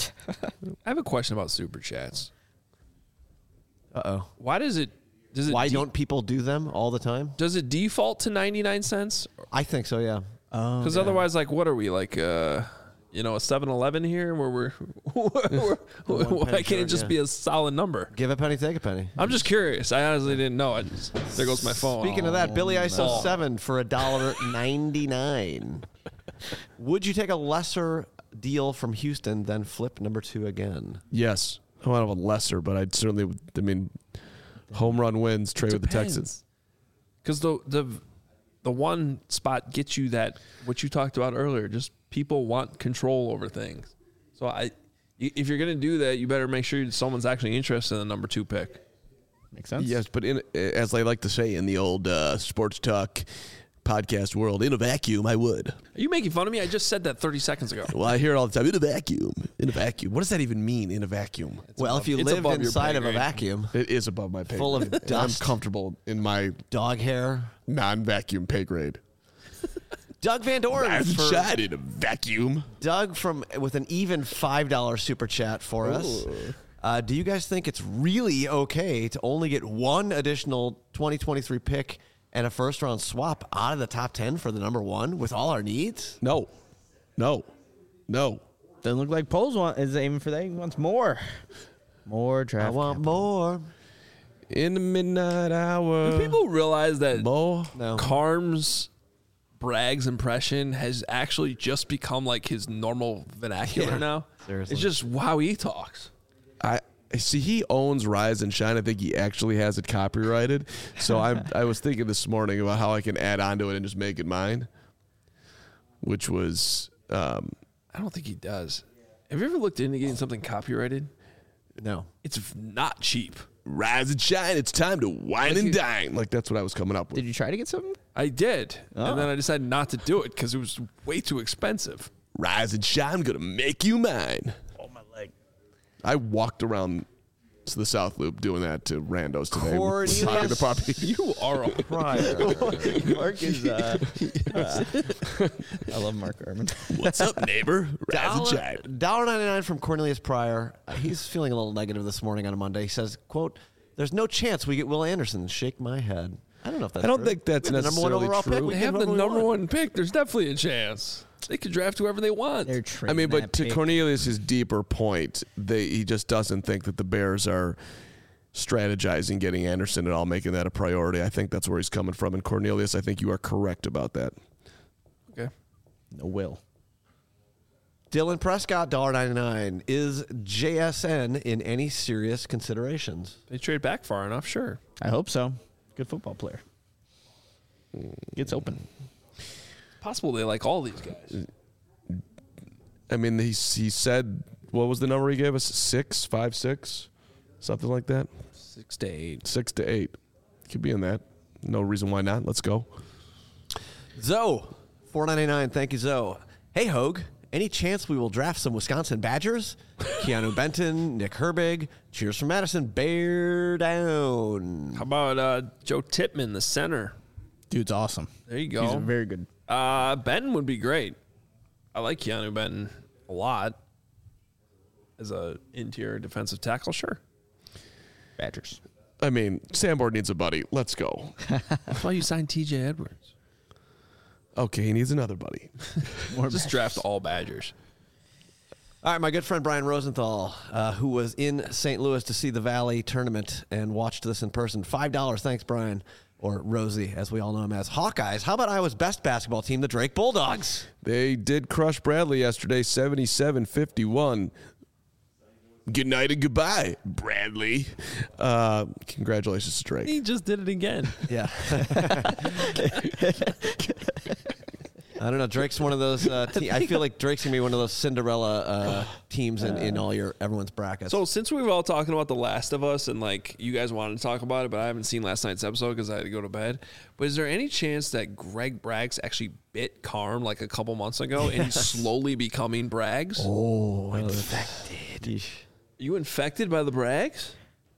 S1: I have a question about Super Chats.
S4: Uh-oh.
S1: Why does it
S4: Why don't people do them all the time?
S1: does it default to 99 cents?
S4: I think so, yeah.
S1: Because otherwise, like, what are we, like, a 7-Eleven here where we're why can't it
S4: short,
S1: just
S4: yeah.
S1: be a solid number?
S4: Give a penny, take a penny.
S1: I'm just curious. I honestly didn't know. There goes my phone.
S4: Speaking of that, Billy ISO 7 for $1.99. Would you take a lesser deal from Houston than flip number 2 again?
S2: Yes. I want to have a lesser, but I'd certainly, home run wins, trade with the Texans.
S1: Because the one spot gets you that, what you talked about earlier, just people want control over things. So if you're going to do that, you better make sure someone's actually interested in the number 2 pick.
S3: Makes sense.
S2: Yes, but as I like to say in the old sports talk podcast world, in a vacuum, I would.
S1: Are you making fun of me? I just said that 30 seconds ago.
S2: Well, I hear it all the time. In a vacuum. In a vacuum. What does that even mean, in a vacuum?
S4: Well, if you
S1: it's
S4: live
S1: above your
S4: inside
S1: pay
S4: of a
S1: grade.
S4: vacuum,
S2: It is above my pay
S4: Full of
S2: grade. And
S4: dust.
S2: I'm comfortable in my
S4: dog hair.
S2: non-vacuum pay grade.
S4: Doug Van Doren
S2: I've
S4: for
S2: shot in a vacuum.
S4: Doug with an even $5 super chat for us. Do you guys think it's really okay to only get one additional 2023 pick and a first-round swap out of the top 10 for the number 1 with all our needs?
S2: No.
S3: Doesn't look like Poles is aiming for that. He wants more. More draft.
S4: I want more.
S2: In the midnight hour.
S1: Do people realize that
S2: More.
S4: No.
S1: Carm's Bragg's impression has actually just become like his normal vernacular
S4: Yeah,
S1: now?
S4: seriously.
S1: It's just how he talks.
S2: I see he owns Rise and Shine. I think he actually has it copyrighted. So I was thinking this morning about how I can add on to it and just make it mine. Which was
S1: I don't think he does. Have you ever looked into getting something copyrighted?
S4: No.
S1: It's not cheap.
S2: Rise and Shine, it's time to wine and dine. Like that's what I was coming up with.
S3: Did you try to get something?
S1: I did. And then I decided not to do it because it was way too expensive.
S2: Rise and Shine, I'm gonna make you mine.
S3: Oh, my leg.
S2: I walked around to the South Loop doing that to randos today.
S4: Cornelius.
S2: Talking to puppy.
S1: You are a
S4: Prior.
S3: Mark is. I love Mark Arman.
S2: What's up, neighbor? Rise and Shine.
S4: $1.99 from Cornelius Pryor. He's feeling a little negative this morning on a Monday. He says, quote, there's no chance we get Will Anderson. Shake my head. I don't know if that's
S2: I don't
S4: true.
S2: think that's
S4: We have the number one
S2: necessarily
S4: overall
S2: true.
S4: pick. We
S1: They
S4: can
S1: have
S4: give
S1: the
S4: whoever we
S1: number
S4: want.
S1: one pick. There's definitely a chance. They could draft whoever they want.
S3: They're
S2: I
S3: trading
S2: mean, but
S3: that
S2: to
S3: pick.
S2: Cornelius' deeper point, he just doesn't think that the Bears are strategizing getting Anderson at all, making that a priority. I think that's where he's coming from. And Cornelius, I think you are correct about that.
S1: Okay.
S3: No will.
S4: Dylan Prescott, $1.99. Is JSN in any serious considerations?
S1: They trade back far enough, sure.
S3: I hope so. Good football player. Gets open.
S1: Possible they like all these guys.
S2: I mean, he said, what was the number he gave us? 6, 5, 6, something like that.
S1: 6 to 8.
S2: 6 to 8. Could be in that. No reason why not. Let's go.
S4: Zoe, $4.99. Thank you, Zoe. Hey, Hogue. Any chance we will draft some Wisconsin Badgers? Keanu Benton, Nick Herbig. Cheers from Madison. Bear down.
S1: How about Joe Tippmann, the center?
S3: Dude's awesome.
S1: There you go.
S3: He's a very good.
S1: Benton would be great. I like Keanu Benton a lot as a interior defensive tackle. Sure.
S3: Badgers.
S2: I mean, Sanborn needs a buddy. Let's go.
S1: That's why you signed T.J. Edwards.
S2: Okay, he needs another buddy.
S1: Just draft all Badgers.
S4: All right, my good friend Brian Rosenthal, who was in St. Louis to see the Valley tournament and watched this in person. $5. Thanks, Brian. Or Rosie, as we all know him as. Hawkeyes. How about Iowa's best basketball team, the Drake Bulldogs?
S2: They did crush Bradley yesterday, 77-51. Good night and goodbye, Bradley. Congratulations to Drake.
S1: He just did it again.
S4: Yeah. I don't know. Drake's one of those. I feel like Drake's gonna be one of those Cinderella teams in all everyone's brackets.
S1: So since we were all talking about The Last of Us and like you guys wanted to talk about it, but I haven't seen last night's episode because I had to go to bed. But is there any chance that Greg Braggs actually bit Carm like a couple months ago and he's slowly becoming Braggs?
S4: oh, infected.
S1: You infected by the Braggs?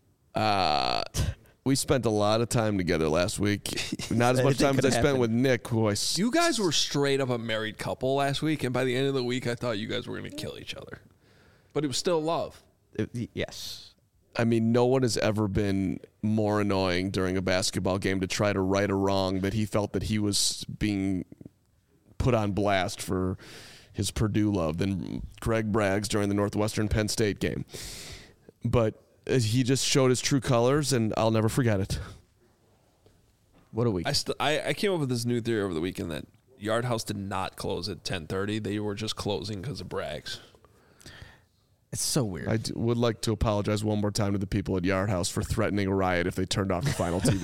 S2: We spent a lot of time together last week. Not as much time as I spent with Nick, who I
S1: You guys were straight up a married couple last week, and by the end of the week, I thought you guys were going to kill each other. But it was still love.
S3: Yes.
S2: I mean, no one has ever been more annoying during a basketball game to try to right a wrong that he felt that he was being put on blast for his Purdue love than Greg Braggs during the Northwestern Penn State game. But he just showed his true colors, and I'll never forget it.
S3: What a week.
S1: I came up with this new theory over the weekend that Yard House did not close at 10:30. They were just closing because of Braggs.
S3: It's so weird.
S2: I would like to apologize one more time to the people at Yard House for threatening a riot if they turned off the final TV.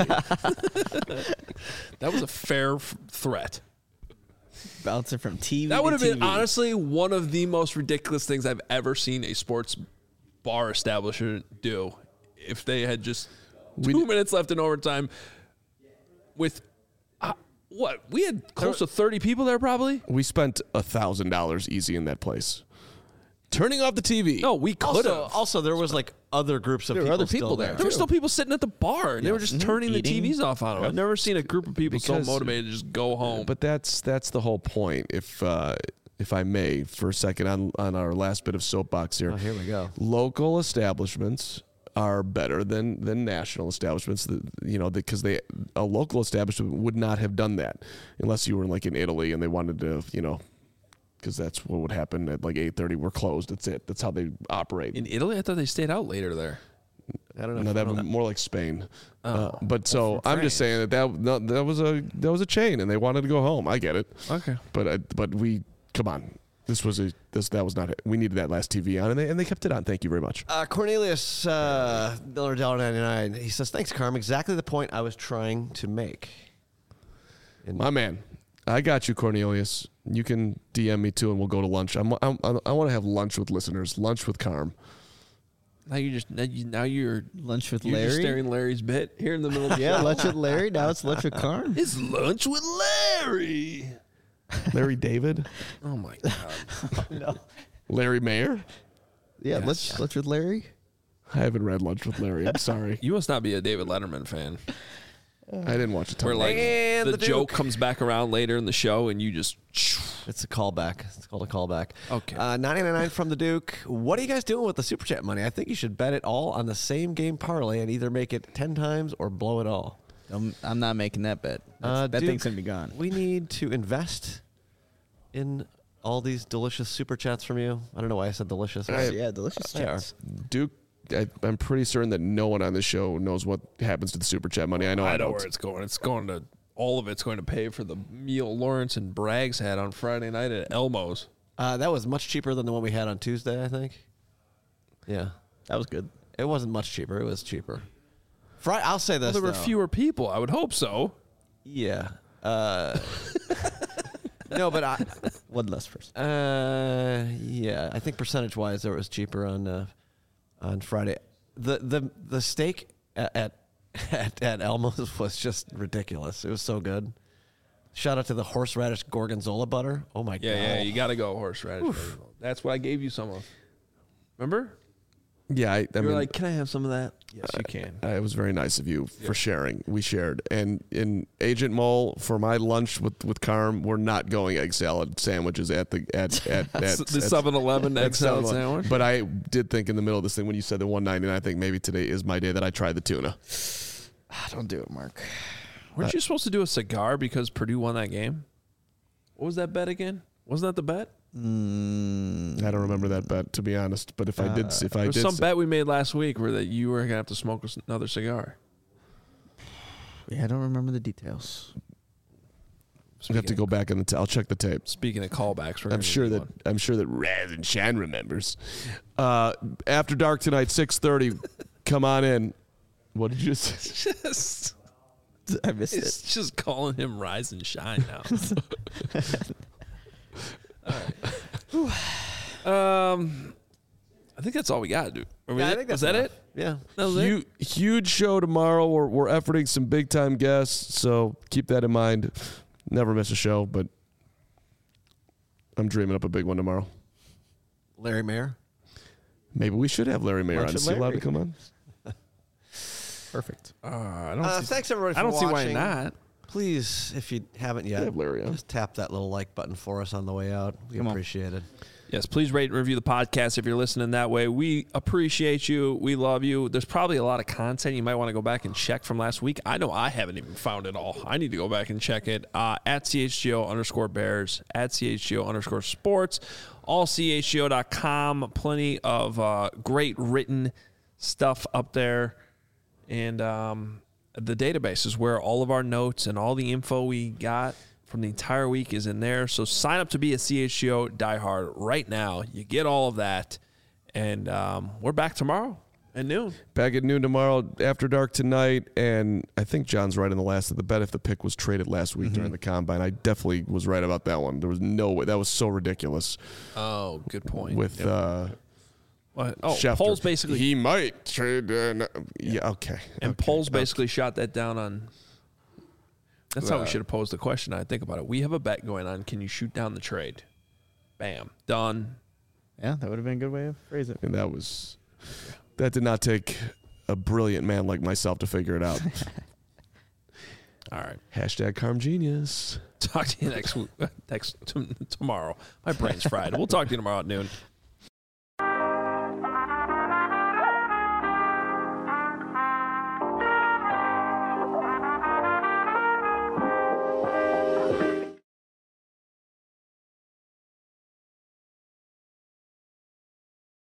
S1: That was a fair threat.
S3: Bouncing from TV
S1: That would have
S3: to
S1: been
S3: TV.
S1: honestly one of the most ridiculous things I've ever seen a sports bar establishment do. If they had just 2 minutes left in overtime with what? We had close to 30 people there probably?
S2: We spent $1,000 easy in that place. Turning off the TV.
S1: No, we could have.
S4: Also, there was like other groups of
S3: There were
S4: people,
S3: other
S4: still
S3: people
S4: there.
S3: there.
S1: There were still people sitting at the bar, and they were just turning
S3: Eating.
S1: the TVs off on them. I've never seen a group of people so
S2: Because-
S1: motivated to just go home.
S2: But that's the whole point. If I may, for a second, on our last bit of soapbox here.
S4: Oh, here we go.
S2: Local establishments are better than national establishments. Because a local establishment would not have done that unless you were like in Italy and they wanted to, because that's what would happen at like 8:30. We're closed. That's it. That's how they operate.
S1: in Italy, I thought they stayed out later there.
S4: I don't know.
S2: No,
S4: if
S2: that
S4: I
S2: was
S4: know
S2: more like Spain.
S1: Oh.
S2: But so
S4: from
S2: I'm just saying that was a chain, and they wanted to go home. I get it.
S1: Okay.
S2: But we come on. That was not it. We needed that last TV on, and they kept it on. Thank you very much.
S4: Cornelius Miller, $1.99. He says, "Thanks, Carm. Exactly the point I was trying to make."
S2: My man, I got you, Cornelius. You can DM me too, and we'll go to lunch. I want to have lunch with listeners. Lunch with Carm.
S1: Now you're
S3: Lunch with
S1: you're
S3: Larry.
S1: just staring Larry's bit here in the middle of the
S3: Yeah,
S1: show.
S3: lunch with Larry. Now it's lunch with Carm.
S1: It's lunch with Larry.
S2: Larry David,
S1: Oh my god.
S2: Larry Mayer.
S3: Yeah, lunch with Larry.
S2: I haven't read Lunch with Larry. I'm sorry.
S1: You must not be a David Letterman fan.
S2: I didn't watch a ton.
S1: Where like
S4: And
S1: the
S4: the
S1: joke
S4: Duke.
S1: comes back around later in the show and you just
S4: It's a callback. It's called a callback.
S1: Okay.
S4: 99 from the Duke. What are you guys doing with the Super Chat money? I think you should bet it all on the same game parlay and either make it 10 times or blow it all.
S3: I'm not making that bet. That
S4: Duke,
S3: thing's gonna be gone.
S4: We need to invest in all these delicious super chats from you. I don't know why I said delicious.
S3: Yeah, delicious
S4: They are.
S3: chats.
S2: Duke, I'm pretty certain that no one on this show knows what happens to the super chat money. I know
S1: I know
S2: don't.
S1: where it's going. It's going to all of it's going to pay for the meal Lawrence and Braggs had on Friday night at Elmo's.
S4: That was much cheaper than the one we had on Tuesday, I think. Yeah.
S3: That was good.
S4: It wasn't much cheaper. It was cheaper. I'll say this,
S1: Well, there were
S4: though.
S1: fewer people. I would hope so.
S4: Yeah. No, but
S3: One less person.
S4: yeah, I think percentage-wise, it was cheaper on Friday. The steak at Elmo's was just ridiculous. It was so good. Shout out to the horseradish gorgonzola butter. Oh my god!
S1: Yeah, you got to go horseradish. That's what I gave you some of. Remember?
S2: Yeah, I
S1: You were
S2: mean,
S1: like, "Can I have some of that?" Yes, you can.
S2: it was very nice of you for sharing. We shared. And in Agent Mole, for my lunch with Carm, we're not going egg salad sandwiches at the
S1: 7-Eleven egg salad
S2: 7-Eleven.
S1: sandwich.
S2: But I did think in the middle of this thing when you said the $1.99, I think maybe today is my day that I try the tuna.
S3: Don't do it, Mark.
S1: Weren't you supposed to do a cigar because Purdue won that game? What was that bet again? Wasn't that the bet?
S2: I don't remember that bet, to be honest. But if I did,
S1: There was some bet we made last week where that you were gonna have to smoke another cigar.
S3: Yeah, I don't remember the details.
S2: I have to go back in I'll check the tape.
S1: Speaking of callbacks, we're
S2: I'm sure that Raz and Shan remembers. After dark tonight, 6:30. Come on in. What did you say?
S1: just
S3: I missed
S1: it's just calling him Rise and Shine now. All right. I think that's all we got, dude.
S4: Yeah, I think
S1: was
S4: that's
S1: that
S4: enough.
S1: it?
S4: Yeah.
S1: That was it?
S2: Huge show tomorrow. We're efforting some big time guests, so keep that in mind. Never miss a show, but I'm dreaming up a big one tomorrow.
S4: Larry Mayer.
S2: Maybe we should have Larry Mayer on.
S3: Lunch
S2: Is
S3: with
S2: he allowed to
S3: Larry.
S2: come on?
S3: Perfect.
S1: I don't see,
S4: Thanks everybody for
S1: I don't see why
S4: watching.
S1: not.
S4: Please, if you haven't yet,
S2: have Larry on.
S4: just tap that little like button for us on the way out. We
S3: Come on.
S4: appreciate it.
S1: Yes, please rate and review the podcast if you're listening that way. We appreciate you. We love you. There's probably a lot of content you might want to go back and check from last week. I know I haven't even found it all. I need to go back and check it. At CHGO_Bears, at CHGO_Sports, allchgo.com. Plenty of great written stuff up there. And the database is where all of our notes and all the info we got from the entire week is in there. So sign up to be a CHGO diehard right now. You get all of that. And we're back tomorrow at noon.
S2: Back at noon tomorrow, after dark tonight. And I think John's right in the last of the bet if the pick was traded last week during the combine. I definitely was right about that one. There was no way. That was so ridiculous.
S1: Oh, good point.
S2: With Schefter.
S1: Poles basically
S2: He might trade. Yeah, okay.
S1: and
S2: Okay.
S1: Poles basically shot that down on. That's how we should have posed the question. I think about it. We have a bet going on. Can you shoot down the trade? Bam, done.
S3: Yeah, that would have been a good way of phrase it.
S2: And that did not take a brilliant man like myself to figure it out.
S1: All right.
S2: Hashtag Carm Genius.
S1: Talk to you next tomorrow. My brain's fried. We'll talk to you tomorrow at noon.